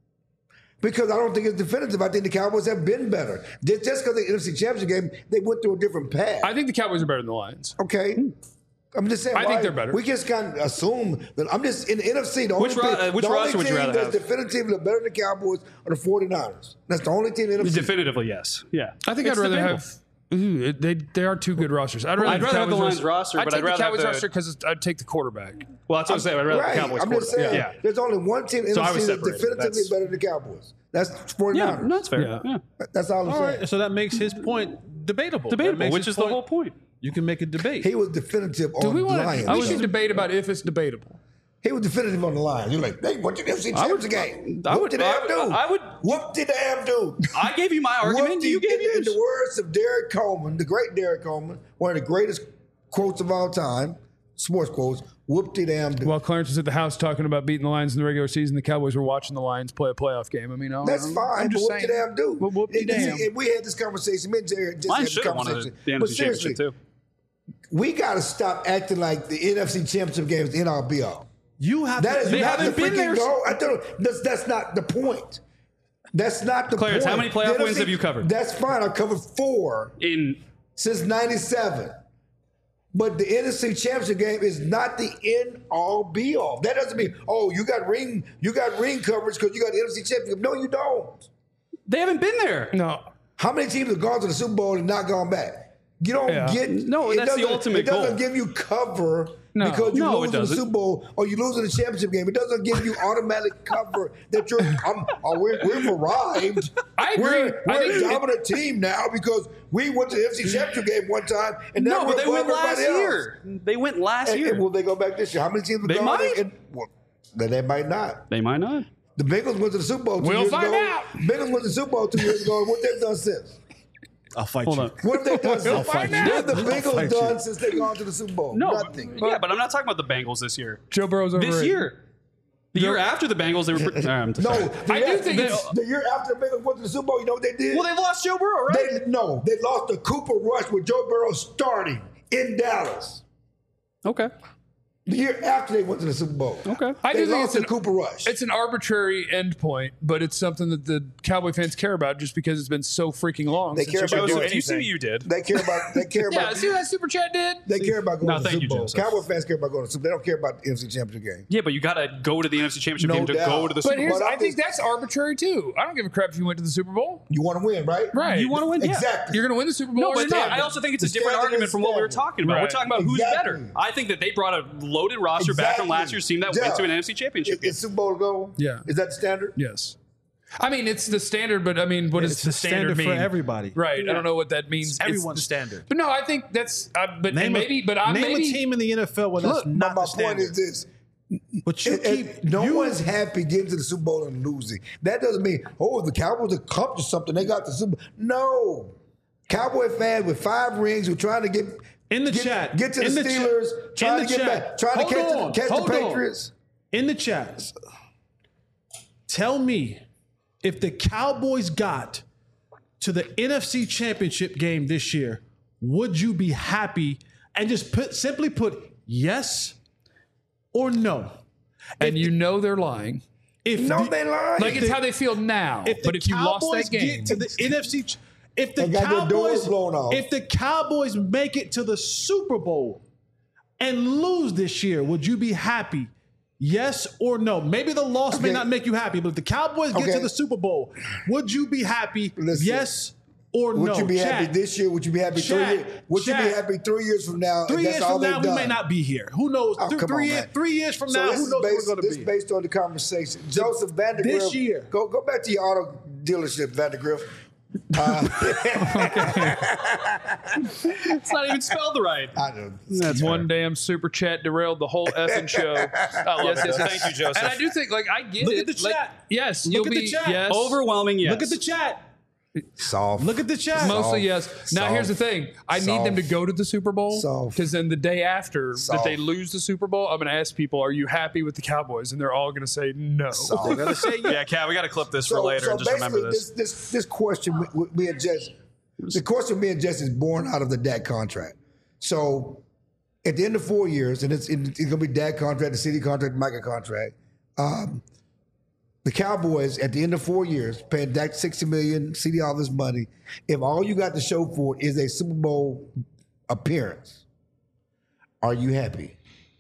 Because I don't think it's definitive. I think the Cowboys have been better. Just because the NFC Championship game, they went through a different path. I think the Cowboys are better than the Lions. Okay. I'm just saying. I think they're better. We just can't assume that. I'm just in the NFC. The only Which roster would you rather that's have? definitively better than the Cowboys are the 49ers. That's the only team in the NFC. Definitively, yes. Yeah. I think It's I'd rather debatable. have. Ooh, they are two good rosters. I'd rather, I'd rather have the Lions roster, but I'd rather the have Cowboys the- roster because I'd take the quarterback. Well, that's what I'm saying. I'd rather have Right. the Cowboys I'm just saying. quarterback. Yeah. There's only one team in So I the was NFC that's separated. definitively That's- better than the Cowboys. That's 49ers. Yeah, no, that's fair. Yeah. Yeah. That's all I'm All saying. right, so that makes his point debatable. That Debatable, makes which his is the whole point. You can make a debate. He was definitive Do on we the want Lions. to? We should debate about if it's debatable. He was definitive on the Lions. You're like, they went to the NFC Championship game. I Whoop would- the damn dude. I would- Whoop the damn dude. I gave you my argument. You gave in yours. the words of Derek Coleman, the great Derek Coleman, one of the greatest quotes of all time, sports quotes, whoop the damn dude. While Clarence was at the house talking about beating the Lions in the regular season, the Cowboys were watching the Lions play a playoff game. I mean, That's fine, I'm but just whoop the saying. damn dude. Well, whoop the damn. And we had this conversation. Me and Jerry just Lions had should the have won conversation. the But NFC seriously, Championship, too. we got to stop acting like the NFC Championship game is the end-all be-all. You have That to, is They not the haven't been freaking there. goal. I don't. That's not the point. That's not the Clarence, point. how many playoff The wins NFC have you covered? That's fine. I've covered 4 In since '97. But the NFC Championship game is not the end all be all. That doesn't mean you got ring coverage because you got the NFC Championship. No, you don't. they haven't been there. No. How many teams have gone to the Super Bowl and not gone back? You don't get No, it that's the doesn't- ultimate It doesn't goal. give you cover No. because you No, lose it in the doesn't. Super Bowl or you lose in the championship game. It doesn't give you automatic cover that we've arrived. I agree. We're I think a dominant team now because we went to the NFC Championship game one time and now No, we're but they above went last everybody else. year. They went last And year. will they go back this year? How many teams have They gone? might. Well, then they might not. They might not. The Bengals went to the Super Bowl 2 We'll years find ago. out. Bengals went to the Super Bowl 2 years ago. And what they've done since? I'll fight Hold you. on. What have they done since? find What have the out. I'll Bengals fight done you. since they've gone to the Super Bowl? No, Nothing. yeah, but I'm not talking about the Bengals this year. Joe Burrow's overrated. This year. The year after the Bengals, they were. No, I do think it's- the year after the Bengals went to the Super Bowl, you know what they did? Well, they lost Joe Burrow, right? They lost to Cooper Rush with Joe Burrow starting in Dallas. Okay. The year after they went to the Super Bowl. Okay. I They do think lost to Cooper Rush. It's an arbitrary endpoint, but it's something that the Cowboy fans care about just because it's been so freaking long. They since care you've been about doing Joseph, you see what anything. you did. They care about. Yeah, see what that super chat did? They care about going No, to the thank Super you, Bowl. Joseph. Cowboy fans care about going to the Super Bowl. They don't care about the NFC Championship game. Yeah, but you got to go to the NFC Championship No game to doubt. go to the But Super Bowl. here's, But I I'm think just- that's arbitrary too. I don't give a crap if you went to the Super Bowl. You want to win, right? Right. You want to win? Yeah. Exactly. You're going to win the Super Bowl No, or but not. I also think it's a The different standard argument is from what we were standard. talking about. We're Right. talking about who's Exactly. better. I think that they brought a loaded roster back from Exactly. last year's team that went to an NFC Championship game. Is Super Bowl to go? Yeah. Is that the standard? Yes. I mean, it's the standard, but I mean, what does It's the the standard standard for mean? everybody. Right. I Yeah. don't know what that means. It's everyone's the- standard. But no, I think that's, but Name maybe, a, but I'm name maybe. a team in the NFL where that's Look, not my the point is standard. this. But you keep No you, one's happy getting to the Super Bowl and losing. That doesn't mean, the Cowboys accomplished something. They got the Super Bowl. No. Cowboy fans with 5 rings who are trying to get in the chat. get to in the cha- Steelers, trying in to the get chat. back, trying to Hold on, catch hold the on. Patriots. In the chat, tell me if the Cowboys got to the NFC Championship game this year, would you be happy and just simply put yes or no? And you know they're lying. If No, the- they lied. Like it's how they feel now. If But the if you lost Cowboys that game, get to the NFC, if the They got their doors Cowboys, blown off. if the Cowboys make it to the Super Bowl and lose this year, would you be happy? Yes or no? Maybe the loss may Okay. not make you happy, but if the Cowboys get Okay. to the Super Bowl, would you be happy? Listen. Yes or no? Would you be Chat. happy this year? Would you be happy 3 Chat. years? Would you be Chat. happy 3 years from now? 3 if that's years all from now, they've we done? may not be here. Who knows? Oh, come on, man. 3 years from So now, this who is knows where based, we're going this to is be? based on the conversation. Joseph Vandergriff. This year. Go back to your auto dealership, Vandergriff. It's not even spelled right. I know. that's one damn super chat derailed the whole effing show. I love it. Thank you, Joseph. And I do think, like, I get Look it. at the Like, chat. yes, Look you'll at be the chat. yes. Overwhelming yes. Look at the chat. Soft. Look at the chat. Mostly yes. Now Soft. here's the thing. I need them to Soft. go to the Super Bowl Soft. because then the day after that they Soft. lose the Super Bowl, I'm going to ask people, "Are you happy with the Cowboys?" And they're all going to say no. They're gonna say yes. Yeah, Cat, we got to clip this for later and just remember basically, this. this question me and Jess, the question me and Jess is born out of the Dak contract. So at the end of 4 years, and it's going to be Dak contract, the CD contract, the Micah contract. The Cowboys at the end of 4 years paying Dak $60 million, CD all this money. If all you got to show for it is a Super Bowl appearance, are you happy?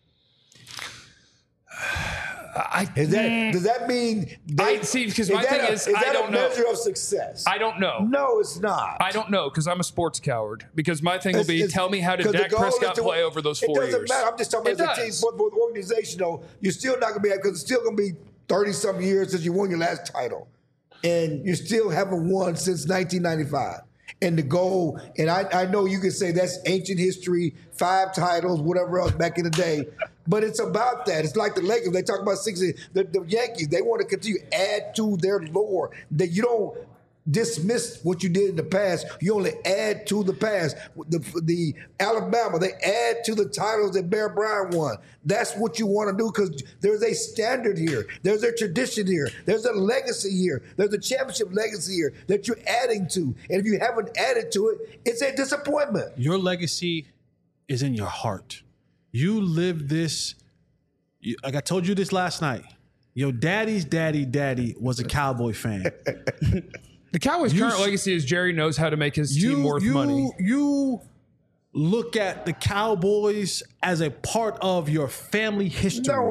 Does that mean I see, because my thing is, I don't know. a measure of success? I don't know. No, it's not. I don't know because I'm a sports coward. Because my thing will be, tell me how did 'cause the Dak goal is Prescott to- play over those 4 years? It doesn't matter. I'm just talking about It as a team does. for the organization. Though you're still not going to be because it's still going to be 30-something years since you won your last title, and you still haven't won since 1995. And the goal, and I know you can say that's ancient history, 5 titles, whatever else back in the day. But it's about that. It's like the Lakers. They talk about 60. The Yankees, they want to continue to add to their lore. That you don't dismiss what you did in the past. You only add to the past. The Alabama, they add to the titles that Bear Bryant won. That's what you want to do because there's a standard here. There's a tradition here. There's a legacy here. There's a championship legacy here that you're adding to. And if you haven't added to it, it's a disappointment. Your legacy is in your heart. You live this. Like I told you this last night. Your daddy's daddy was a Cowboy fan. The Cowboys' current legacy is Jerry knows how to make his team worth money. You look at the Cowboys as a part of your family history. No.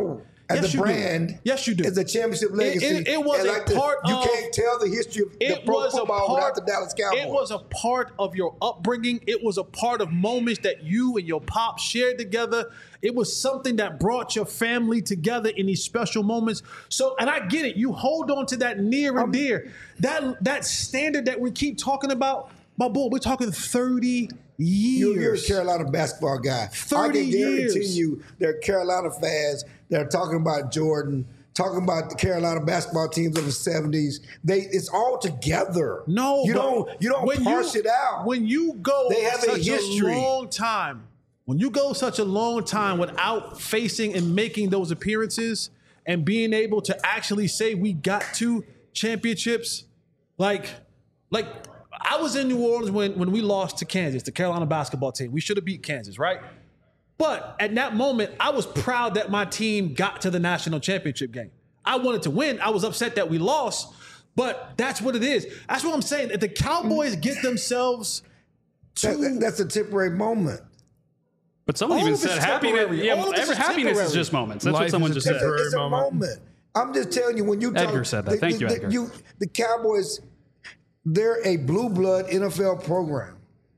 as Yes, a you do. brand. Yes, you do. As a championship legacy. It was And a part you of. can't tell the history of the pro football without the Dallas Cowboys. It was a part of your upbringing. It was a part of moments that you and your pop shared together. It was something that brought your family together in these special moments. So, and I get it. You hold on to that near and dear. That standard that we keep talking about, my boy, we're talking 30 years. You're a Carolina basketball guy. 30 I can guarantee years. you there are Carolina fans that are talking about Jordan, talking about the Carolina basketball teams of the 70s. It's all together. No, you but don't when parse it out. When you go They have a such history. a long time, when you go such a long time without facing and making those appearances and being able to actually say we got 2 championships, like I was in New Orleans when we lost to Kansas, the Carolina basketball team. We should have beat Kansas, right? But at that moment, I was proud that my team got to the national championship game. I wanted to win. I was upset that we lost, but that's what it is. That's what I'm saying. If the Cowboys get themselves That's a temporary moment. But someone All even of it's said happiness. temporary. Yeah, All of this is happiness is temporary. just moments. That's Life what someone is a just said. temporary It's a moment. I'm just telling you, when you talk, Edgar said that. Thank you, Edgar. The Cowboys, they're a blue blood NFL program.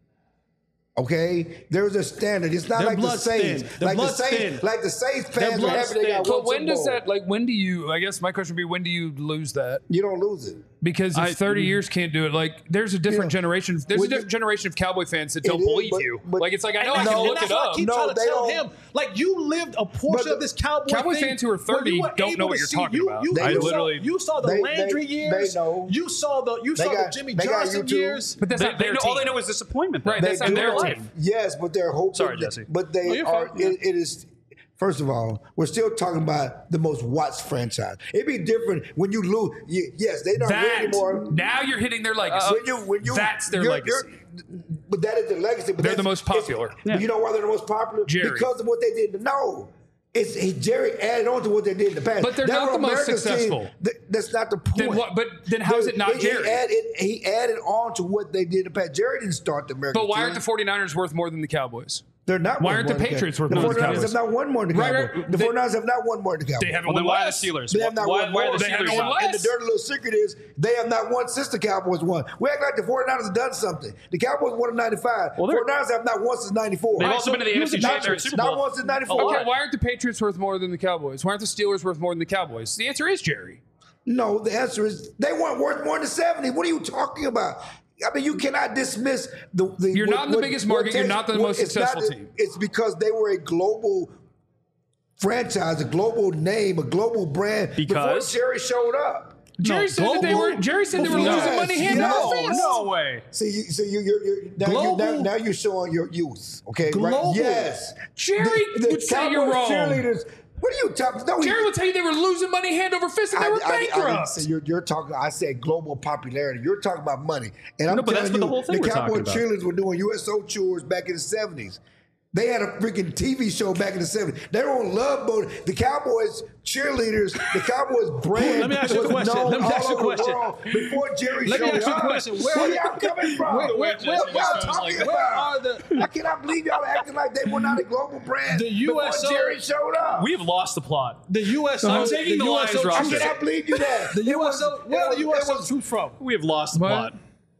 Okay, there's a standard. It's not Their like the blood's Saints. thin. Their blood's thin. Like the Saints Their fans are blood's happy they got thin. one But when Super does Bowl. that, like, when do you, I guess my question would be, when do you lose that? You don't lose it. Because if 30 years can't do it, like, there's a different generation. There's a When you- different generation of Cowboy fans that don't It is, believe but- you. but- Like, it's like, I know I And can look that's it why I up. keep No, trying to they tell don't. him, like, you lived a portion But of this Cowboy Cowboy thing fans who are where 30 you were don't know able what to you're see- talking about. They I do. literally- you saw the They- Landry they years. know. You saw the got- Jimmy they got Johnson YouTube. years. But that's not their All they team. know is disappointment. though. Right, that's not do their know- team. Yes, but they're hoping. Sorry, Jesse. But they you're are. fine. It is. First of all, we're still talking about the most watched franchise. It'd be different when you lose. Yes, they don't win That, anymore. now you're hitting their legacy. When you, That's their you're- legacy. But that is their legacy. But They're that's- the most popular. But you know why they're the most popular? Jerry. Because of what they did. No. Jerry added on to what they did in the past. But they're They not were the most America's team. successful. That's not the point. Then what? But then how is it not Jerry? He added on to what they did in the past. Jerry didn't start the American But why team. aren't the 49ers worth more than the Cowboys? They're not. Why worth aren't the more than Patriots Cowboys. worth more than the 49ers Cowboys? have not won more than the Right, Cowboys. right. The They- 49ers have not won more than the Cowboys. They haven't Well, won then why are the less. Steelers? They have not why, won why are more. the They haven't Steelers won out? less. And the dirty little secret is they have not won since the Cowboys won. We act like the 49ers have done something. The Cowboys won in 95. Well, they're- 49ers have not won since 94. They've also been to the NFC Championship Super Bowl. Not won since 94. A lot. Okay, why aren't the Patriots worth more than the Cowboys? Why aren't the Steelers worth more than the Cowboys? The answer is Jerry. No, the answer is they weren't worth more than 70. What are you talking about? I mean, you cannot dismiss the You're not in the biggest market. You're not the most successful team. It's because they were a global franchise, a global name, a global brand Because? before Jerry showed up. Jerry said that they were. Jerry said they were Yes, losing money hand yes. over fist. No way. See, you're Global. now you're showing your youth. Okay, Global. right? Yes, Jerry would say you're Cowboys wrong. cheerleaders. What are you talking? No, Jerry will tell you they were losing money hand over fist and they were I didn't bankrupt. say you're talking. I said global popularity. You're talking about money, and I'm No, but that's telling what the you, whole thing the we're talking Cowboy about. cheerleaders were doing USO tours back in the '70s. They had a freaking TV show back in the '70s. They were on Love Boat. The Cowboys cheerleaders, the Cowboys brand. Let me ask you a was question. known Let me ask you a all over the question. world before Jerry Let me showed ask you a up. question. Where y'all coming from? where What y'all talking where are about? the I cannot believe y'all acting like they were not a global brand The before USO Jerry showed up. We have lost the plot. the USO? I'm taking the Lions USO roster. I cannot believe you that. The USO. Where are the it USO was- troops from? We have lost the What? plot.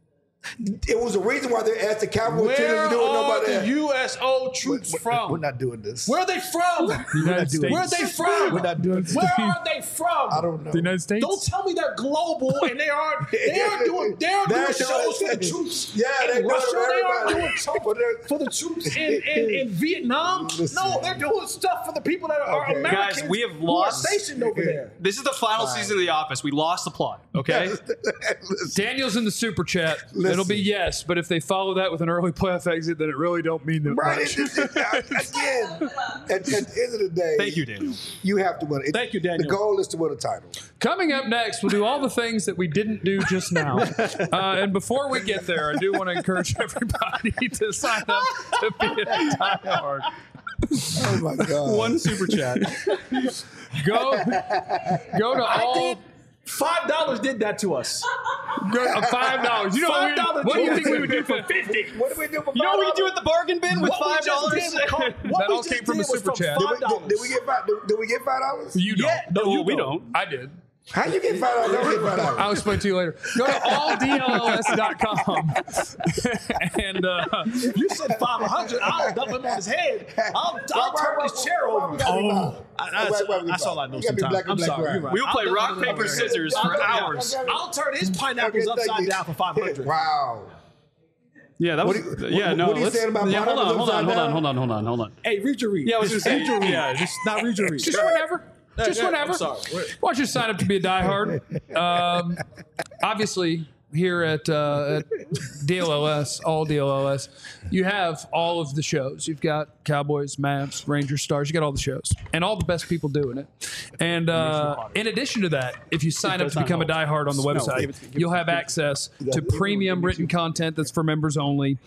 It was a reason why they asked the Cowboys Where cheerleaders to do it. are Nobody the else. USO troops from? We're not doing this. Where are they from? United States. Where are they from? We're not doing this. Where are they from? I don't know. The United States. Don't tell me they're global and they are doing They're shows for the doing- troops Yeah, they're in doing Russia. it for They are everybody. doing stuff But they're- for the troops in Vietnam. Listen. No, they're doing stuff for the people that are Okay. Americans. Guys, we have who lost- are stationed over there. This is the final season of The Office. We lost the plot. Okay. Listen. Daniel's in the super chat. Listen. It'll be yes, but if they follow that with an early playoff exit, then it really don't mean that Right. much. Again, at the end of the day, Thank you, Daniel. you have to win. Thank you, Daniel. The goal is to win a title. Coming up next, we'll do all the things that we didn't do just now. And before we get there, I do want to encourage everybody to sign up to be a diehard. Oh my God. One super chat. Go to all. $5 did that to us. $5. You know $5. what do you think we would do for 50? What do we do for $5? You know what we do at the bargain bin with $5? That all came from a super chat. Did we get $5? You don't. Yeah, no, we don't. I did. How you get $5? Don't get $5. I'll explain to you later. Go to alldlls.com. And If you said 500, I'll dump him on his head. I'll turn his chair over. That's all I know sometimes. I'm sorry. You're right. We'll play I'll rock, definitely paper, do that. scissors for hours. I'll turn his pineapples upside down for 500. Wow. Yeah, that was. What are you saying about pineapples upside down? Hold on. Hey, read your read. Yeah, I was Just gonna read say, your read. yeah, Just not read your read. just whenever. Just whenever. I'm sorry. Why don't you sign up to be a diehard? Obviously, here at DLLS, all DLLS, you have all of the shows. You've got Cowboys, Mavs, Rangers, Stars. You got all the shows and all the best people doing it. And in addition to that, if you sign up to become a diehard on the website, you'll have access to premium written content that's for members only.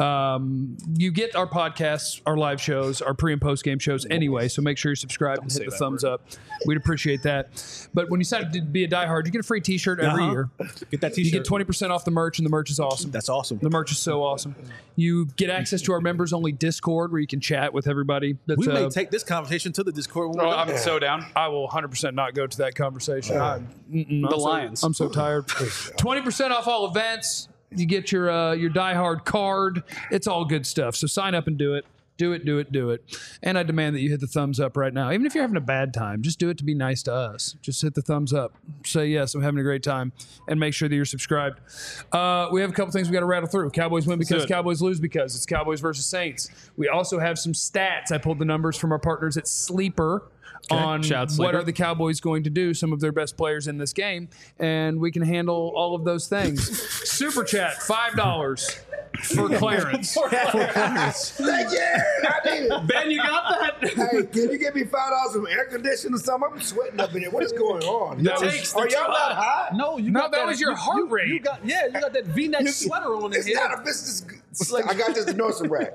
You get our podcasts, our live shows, our pre and post game shows anyway. So make sure you're subscribed and hit the thumbs up. We'd appreciate that. But when you sign up to be a diehard, you get a free T-shirt every year. Get that You T-shirt. get 20% off the merch, and the merch is awesome. That's awesome. The merch is so awesome. You get access to our members only Discord, where you can chat with everybody. That's, We may take this conversation to the Discord. When we're done. I'm so down. I will 100% not go to that conversation. The Lions. I'm so tired. 20% off all events. You get your diehard card. It's all good stuff. So sign up and do it. Do it. And I demand that you hit the thumbs up right now. Even if you're having a bad time, just do it to be nice to us. Just hit the thumbs up. Say, yes, I'm having a great time. And make sure that you're subscribed. We have a couple things we got to rattle through. Cowboys win because Cowboys lose because. It's Cowboys versus Saints. We also have some stats. I pulled the numbers from our partners at Sleeper on Shout out what Sleeper. are the Cowboys going to do, some of their best players in this game, and we can handle all of those things. Super chat, $5 for Clarence. Thank you. I need it. Ben, you got that? Hey, can you give me $5 from air conditioning or something? I'm sweating up in here. What is going on? That was- Are y'all not hot? No, you No, got that was your heart rate. You got that V-neck sweater on in It's here. not a business. I got this nursery rag.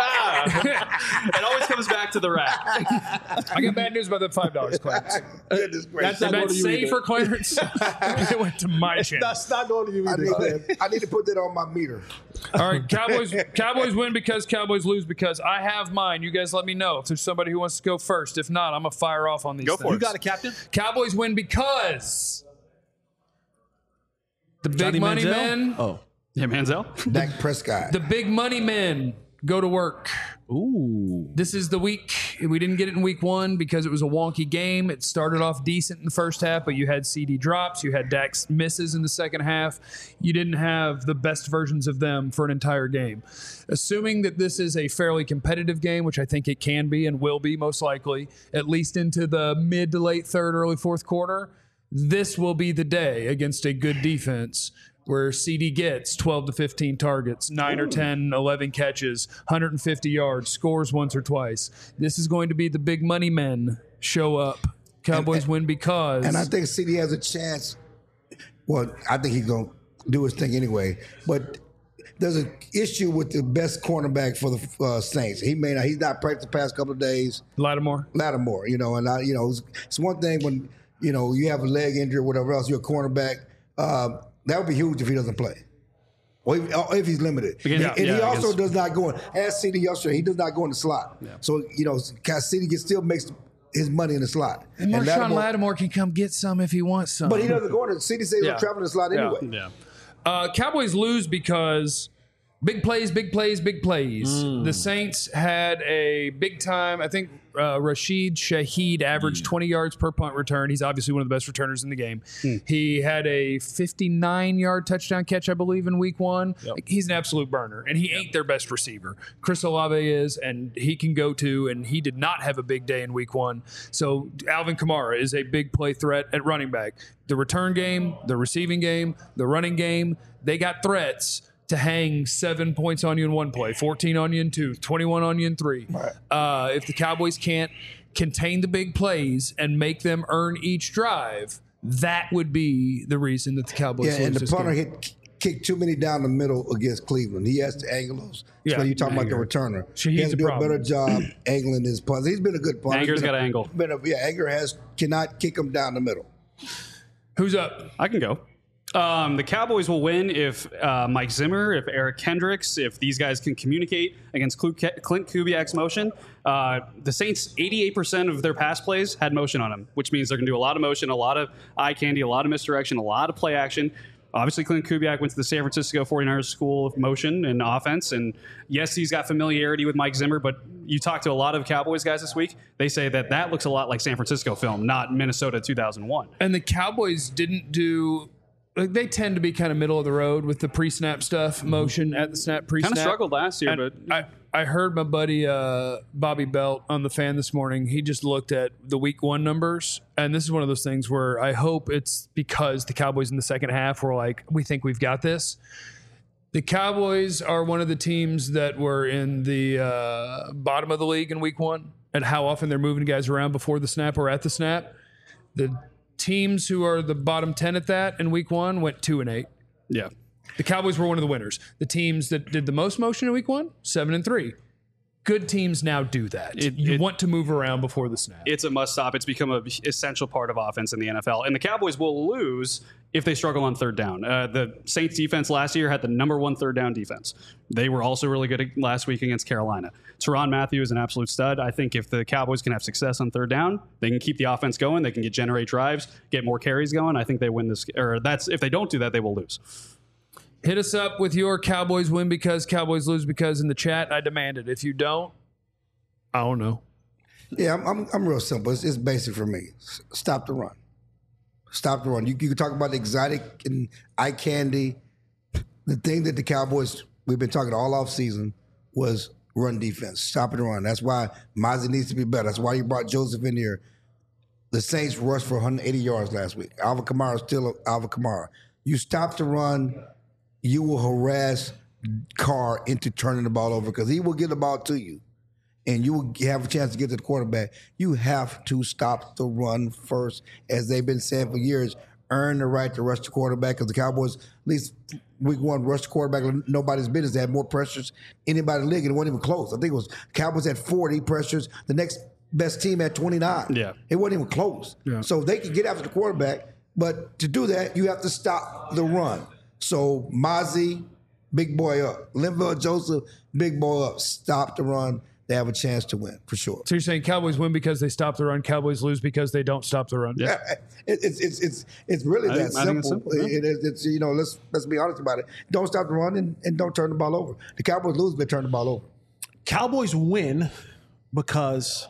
It always comes back to the rack. I got bad news about that $5, Clarence. Goodness gracious. That's Did not going that to you say either. for Clarence? It went to my channel. That's not going to you I either. need to put that on my meter. All right, Cowboys win because Cowboys lose because. I have mine. You guys let me know if there's somebody who wants to go first. If not, I'm going to fire off on these Go things. for it. You got a captain? Cowboys win because the big Johnny money Manziel? men, Oh. Yeah, Manziel. Dak Prescott. the big money men go to work. Ooh. This is the week. We didn't get it in week one because it was a wonky game. It started off decent in the first half, but you had CD drops. You had Dak's misses in the second half. You didn't have the best versions of them for an entire game. Assuming that this is a fairly competitive game, which I think it can be and will be most likely, at least into the mid to late third, early fourth quarter, this will be the day against a good defense where CD gets 12 to 15 targets, 9 or 10, 11 catches, 150 yards, scores once or twice. This is going to be the big money men show up. Cowboys win because. And I think CD has a chance. Well, I think he's going to do his thing anyway. But there's an issue with the best cornerback for the Saints. He's not practiced the past couple of days. Lattimore. Lattimore, it's one thing when, you have a leg injury or whatever else, you're a cornerback. That would be huge if he doesn't play. Or if he's limited. Yeah, And he also against- does not go in. As CD yesterday, he does not go in the slot. Yeah. So, CD still makes his money in the slot. And Marshawn Lattimore can come get some if he wants some. But he doesn't go in the CD says he'll travel in the slot anyway. Yeah. Cowboys lose because big plays. The Saints had a big time. I think Rashid Shaheed averaged 20 yards per punt return. He's obviously one of the best returners in the game. He had a 59-yard touchdown catch, I believe, in week one. Yep. He's an absolute burner, and he ain't their best receiver. Chris Olave is, and he can go to, and he did not have a big day in week one. So Alvin Kamara is a big play threat at running back. The return game, the receiving game, the running game, they got threats to hang 7 points on you in one play, 14 on you in two, 21 on you in three. Right. If the Cowboys can't contain the big plays and make them earn each drive, that would be the reason that the Cowboys lose and the this punter game. kicked too many down the middle against Cleveland. He has to angle those. Yeah, So you're talking about the Anger. returner. So he he's has to the do problem. a better job angling his punts. He's been a good punter. Anger's got to angle. Anger cannot kick him down the middle. Who's up? I can go. The Cowboys will win if Mike Zimmer, if Eric Kendricks, if these guys can communicate against Clint Kubiak's motion. The Saints, 88% of their pass plays had motion on them, which means they're going to do a lot of motion, a lot of eye candy, a lot of misdirection, a lot of play action. Obviously, Clint Kubiak went to the San Francisco 49ers School of Motion and Offense. And yes, he's got familiarity with Mike Zimmer, but you talk to a lot of Cowboys guys this week, they say that looks a lot like San Francisco film, not Minnesota 2001. And the Cowboys didn't do... Like, they tend to be kind of middle of the road with the pre-snap stuff, motion at the snap, pre-snap. Kind of struggled last year, And but... I heard my buddy Bobby Belt on the Fan this morning. He just looked at the week 1 numbers, and this is one of those things where I hope it's because the Cowboys in the second half were like, we think we've got this. The Cowboys are one of the teams that were in the bottom of the league in week 1 and how often they're moving guys around before the snap or at the snap. The teams who are the bottom 10 at that in week 1 went 2-8. Yeah. The Cowboys were one of the winners. The teams that did the most motion in week 1, 7-3. Good teams now do that. You want to move around before the snap. It's a must stop. It's become an essential part of offense in the NFL. And the Cowboys will lose if they struggle on third down. The Saints defense last year had the #1 third down defense. They were also really good last week against Carolina. Teron Matthew is an absolute stud. I think if the Cowboys can have success on third down, they can keep the offense going. They can generate drives, get more carries going. I think they win this. Or if they don't do that, they will lose. Hit us up with your Cowboys win because, Cowboys lose because in the chat. I demand it. If you don't, I don't know. Yeah, I'm real simple. It's basic for me. Stop the run. Stop the run. You can talk about exotic and eye candy. The thing that the Cowboys, we've been talking all off season, was run defense. Stop the run. That's why Mozzie needs to be better. That's why you brought Joseph in here. The Saints rushed for 180 yards last week. Alvin Kamara is still Alvin Kamara. You stop the run, you will harass Carr into turning the ball over because he will get the ball to you. And you will have a chance to get to the quarterback. You have to stop the run first, as they've been saying for years. Earn the right to rush the quarterback because the Cowboys, at least week 1, rushed the quarterback like nobody's business. They had more pressures than anybody in the league, and it wasn't even close. I think it was Cowboys had 40 pressures. The next best team had 29. Yeah. It wasn't even close. Yeah. So they can get after the quarterback, but to do that, you have to stop the run. So Mozzie, big boy up. Linval Joseph, big boy up. Stop the run. They have a chance to win, for sure. So you're saying Cowboys win because they stop the run, Cowboys lose because they don't stop the run? Yeah. It's really that simple. It's you know, let's be honest about it. Don't stop the run and don't turn the ball over. The Cowboys lose, but turn the ball over. Cowboys win because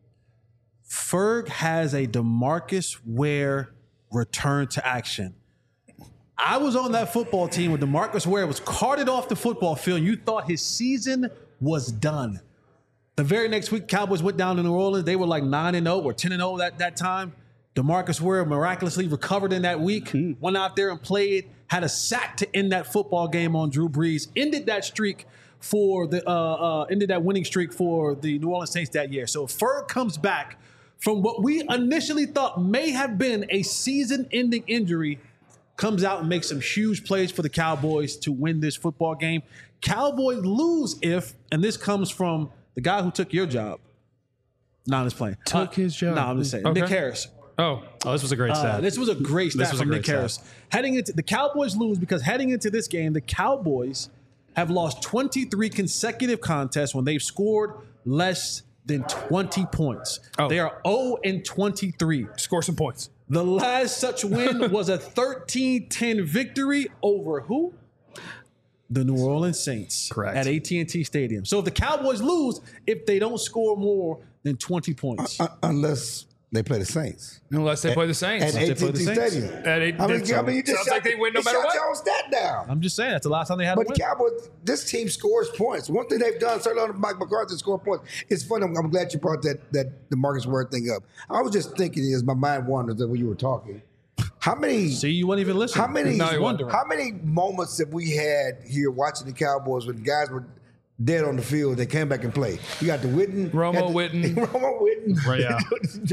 Ferg has a DeMarcus Ware return to action. I was on that football team when DeMarcus Ware was carted off the football field. You thought his season was done. The very next week, Cowboys went down to New Orleans. They were like 9-0 or 10-0 that time. DeMarcus Ware miraculously recovered in that week, went out there and played, had a sack to end that football game on Drew Brees, ended that streak for ended that winning streak for the New Orleans Saints that year. So Ferg comes back from what we initially thought may have been a season-ending injury, comes out and makes some huge plays for the Cowboys to win this football game. Cowboys lose if, and this comes from the guy who took your job. No, I'm just playing. Took his job? No, I'm just saying. Okay. Nick Harris. Oh, this was a great stat. This was a great stat from Nick Harris. Heading into the Cowboys lose because heading into this game, the Cowboys have lost 23 consecutive contests when they've scored less than 20 points. Oh. They are 0-23. score some points. The last such win was a 13-10 victory over who? The New Orleans Saints. Correct. At AT&T Stadium. So if the Cowboys lose, if they don't score more than 20 points. Unless they play the Saints. Unless they play the Saints. At AT&T Stadium. You just sounds like they win no matter what. your own stat down. I'm just saying, that's the last time they had But a win. the Cowboys, this team scores points. One thing they've done, certainly under Mike McCarthy, score points. It's funny. I'm glad you brought that the Marcus Ware thing up. I was just thinking, as my mind wandered when you were talking, how many? See, you wouldn't even listen. How many? Wondering. How many moments have we had here watching the Cowboys when guys were dead on the field? They came back and played. You got the Witten, Romo Witten, Right, yeah.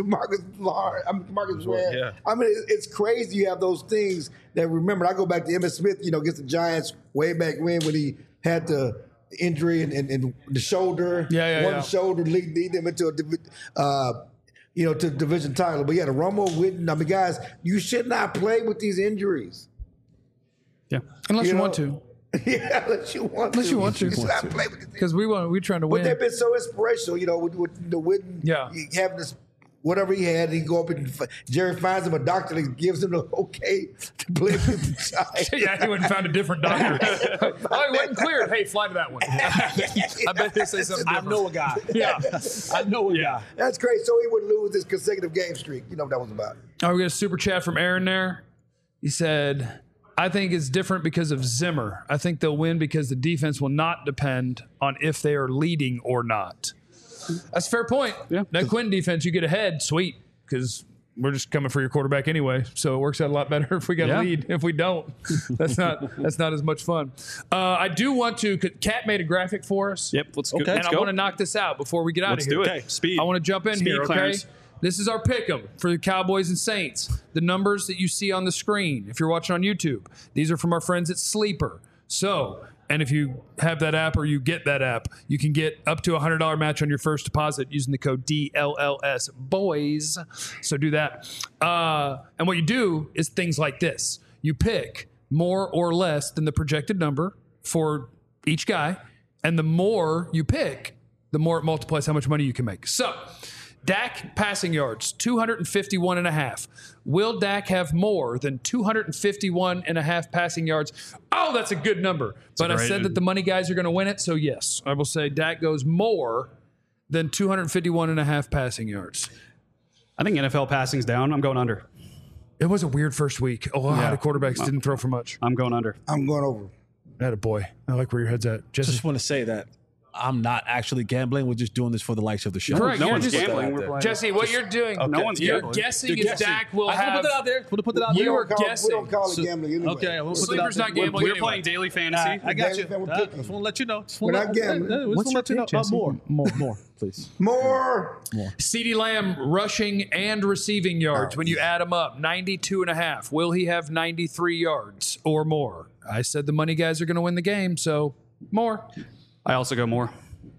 Marcus Ware. Yeah. I mean, it's crazy. You have those things that remember. I go back to Emmitt Smith, against the Giants way back when he had the injury and the shoulder. Yeah. Shoulder lead them into a. to the division title. But yeah, the Romo, Witten. I mean, guys, you should not play with these injuries. Yeah. Unless you want to. Yeah, unless you want Unless to. you want to. You should not play with these Because we're trying to But win. they've been so inspirational, with the Witten having this, whatever he had, he go up and Jerry finds him a doctor that gives him the okay to play with the Giants. Yeah, he went and found a different doctor. Oh, he wasn't cleared. Hey, fly to that one. I bet he'll say something different. I know a guy. Yeah. I know a guy. That's great. So he would lose this consecutive game streak. You know what that was about. Oh, we got a super chat from Aaron there. He said, I think it's different because of Zimmer. I think they'll win because the defense will not depend on if they are leading or not. That's a fair point. Yeah. That Quinn defense, you get ahead, sweet, because we're just coming for your quarterback anyway. So it works out a lot better if we got a lead. If we don't, that's not as much fun. I do want to. Kat made a graphic for us. Yep. Let's go. And Let's I go. want to knock this out before we get out Let's of here. do it. Okay. Speed. I want to jump in Speed, here. Okay. Clarence. This is our pick'em for the Cowboys and Saints. The numbers that you see on the screen, if you're watching on YouTube, these are from our friends at Sleeper. So, and if you have that app or you get that app, you can get up to a $100 match on your first deposit using the code DLLS boys. So do that. And what you do is things like this. You pick more or less than the projected number for each guy. And the more you pick, the more it multiplies how much money you can make. So, Dak passing yards, 251.5. Will Dak have more than 251.5 passing yards? Oh, that's a good number. But I said that the money guys are going to win it, so yes. I will say Dak goes more than 251.5 passing yards. I think NFL passing's down. I'm going under. It was a weird first week. A lot of quarterbacks didn't throw for much. I'm going under. I'm going over. Attaboy. I like where your head's at. Jesse. Just want to say that I'm not actually gambling. We're just doing this for the likes of the show. Correct. No You're one's just- gambling. We're playing. Jesse, what you're doing, No one's you're gambling. guessing You're is Dak will I just have. want to put it out there. Want to put it out You there. were We guessing. don't call it gambling anyway. Okay, we'll put it out Sleeper's there. not gambling. We're anyway. playing daily fantasy. I got you. We're I picking. just want to let you know. We're not gambling. What's your pick, Jesse? More, please. More. CeeDee Lamb rushing and receiving yards. When you add them up, 92.5. Will he have 93 yards or more? I said the money guys are going to win the game, so more. I also go more.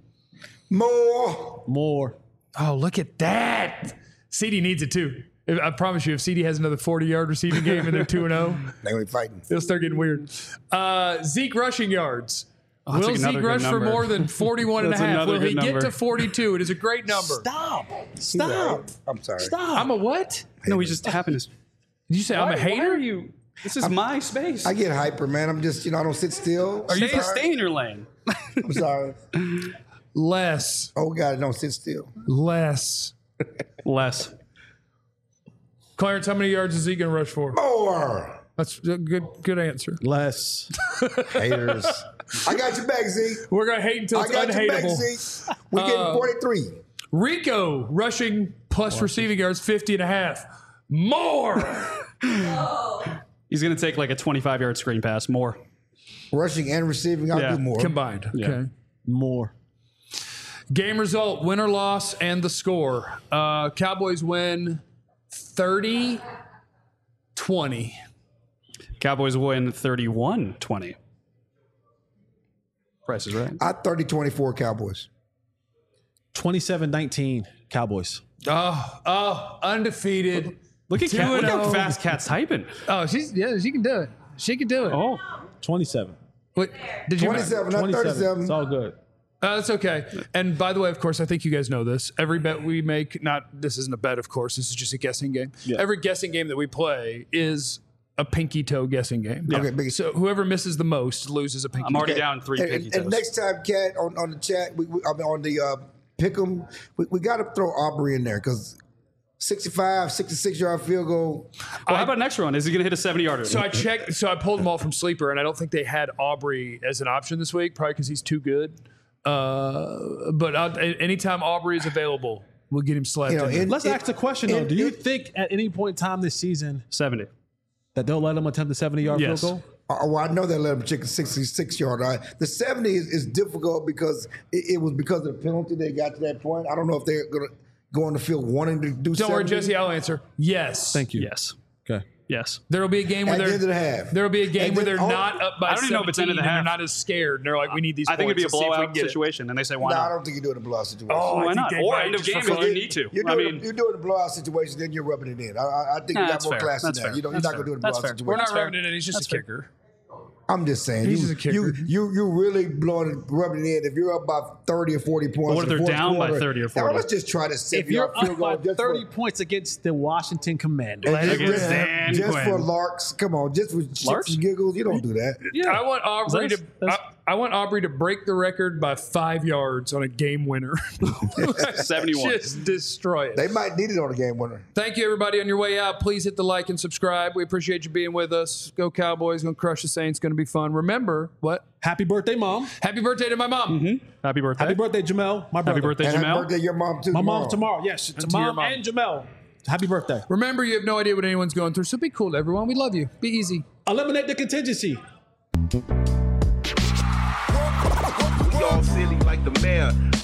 More. Oh, look at that. CD needs it too. I promise you, if CD has another 40-yard receiving game and they're 2-0, They ain't fighting. it'll start getting weird. Zeke rushing yards. that's Will another Zeke good rush for number. more than 41 and a That's half? another Will he good get number. to 42? It is a great number. Stop. I'm sorry. I'm a what? No, we just happened to. Did you say I'm a hater? Why are you? This is my space. I get hyper, man. I'm just, I don't sit still. Stay in your lane. I'm sorry. Less. Oh, God, don't sit still. Less. Less. Clarence, how many yards is he going to rush for? More. That's a good answer. Less. Haters. I got your back, Z. We're going to hate until I it's got your back, unhateable. Z. We're getting 43. Rico rushing plus receiving yards 50 and a half. More. He's going to take like a 25-yard screen pass. More. Rushing and receiving, I'll Yeah. do more. Combined. Okay. More. Game result, win or loss, and the score. Cowboys win 30-20. Cowboys win 31-20. Price is right. 30-24 Cowboys. 27-19 Cowboys. Oh, undefeated. Look at Cat. Look how 2-0. fast Cat's typing. Oh, she can do it. She can do it. Oh, 27. Wait, did you 27, not 27. 37. It's all good. That's okay. And by the way, of course, I think you guys know this. Every bet we make, this isn't a bet, of course. This is just a guessing game. Yeah. Every guessing game that we play is a pinky toe guessing game. Okay, big. So whoever misses the most loses a pinky I'm already toe. down 3 pinky And toes. next time, Cat, on the chat, on the pick 'em, we got to throw Aubrey in there because 65, 66-yard field goal. Well, how about next one? Is he going to hit a 70-yarder? So I checked. So I pulled them all from Sleeper, and I don't think they had Aubrey as an option this week, probably because he's too good. But anytime Aubrey is available, we'll get him slapped. in. Let's ask the question, though. Do you think at any point in time this season 70. that they'll let him attempt a 70-yard Yes. field goal? Well, I know they let him check a 66-yard. The 70 is difficult because it was because of the penalty they got to that point. I don't know if they're going to go on the field wanting to do Don't worry, 70. Jesse. I'll answer. Yes. Thank you. Yes. Okay. Yes. There will be a game where At the end of the half. There will be a game And where then- they're not up by I don't even know if it's end of the 17 and half. they're not as scared. They're like, we need these I think it'd be a points. Let's see if we blowout can get it. situation, and they say, why No, I not? don't think you do it in a blowout situation. Oh, Why I think not? they Or might end of just game for if you fun. need to. You're I doing, mean, you're doing a blowout situation, then you're rubbing it in. I think Nah, you got that's more fair. class That's than that. fair. You know, you're That's not going to do it in a fair. blowout That's fair. situation. We're not That's fair. rubbing it in. He's just That's a fair. kicker. I'm just saying, He's just a kicker. you really rubbing it in. If you're up by 30 or 40 points, what if in the they're fourth down by quarter, 30 or now 40? let's just try to set If you're field up goal by just 30 for, points against the Washington Commanders. and Against Dan just Quinn. for larks. Come on, just for shits Larks? and giggles. You don't do that. I want Aubrey That's- I want Aubrey to break the record by 5 yards on a game winner. 71. Just destroy it. They might need it on a game winner. Thank you, everybody. On your way out, please hit the like and subscribe. We appreciate you being with us. Go Cowboys. Going to crush the Saints. Going to be fun. Remember, what? Happy birthday, Mom. Happy birthday to my mom. Happy birthday. Happy birthday, Jamel. My brother. Happy birthday, And happy Jamel. birthday, your mom too. My mom tomorrow. Yes, to your Mom mom. and Jamel. Happy birthday. Remember, you have no idea what anyone's going through, so be cool, everyone. We love you. Be easy. Eliminate the contingency. We all silly like the mayor.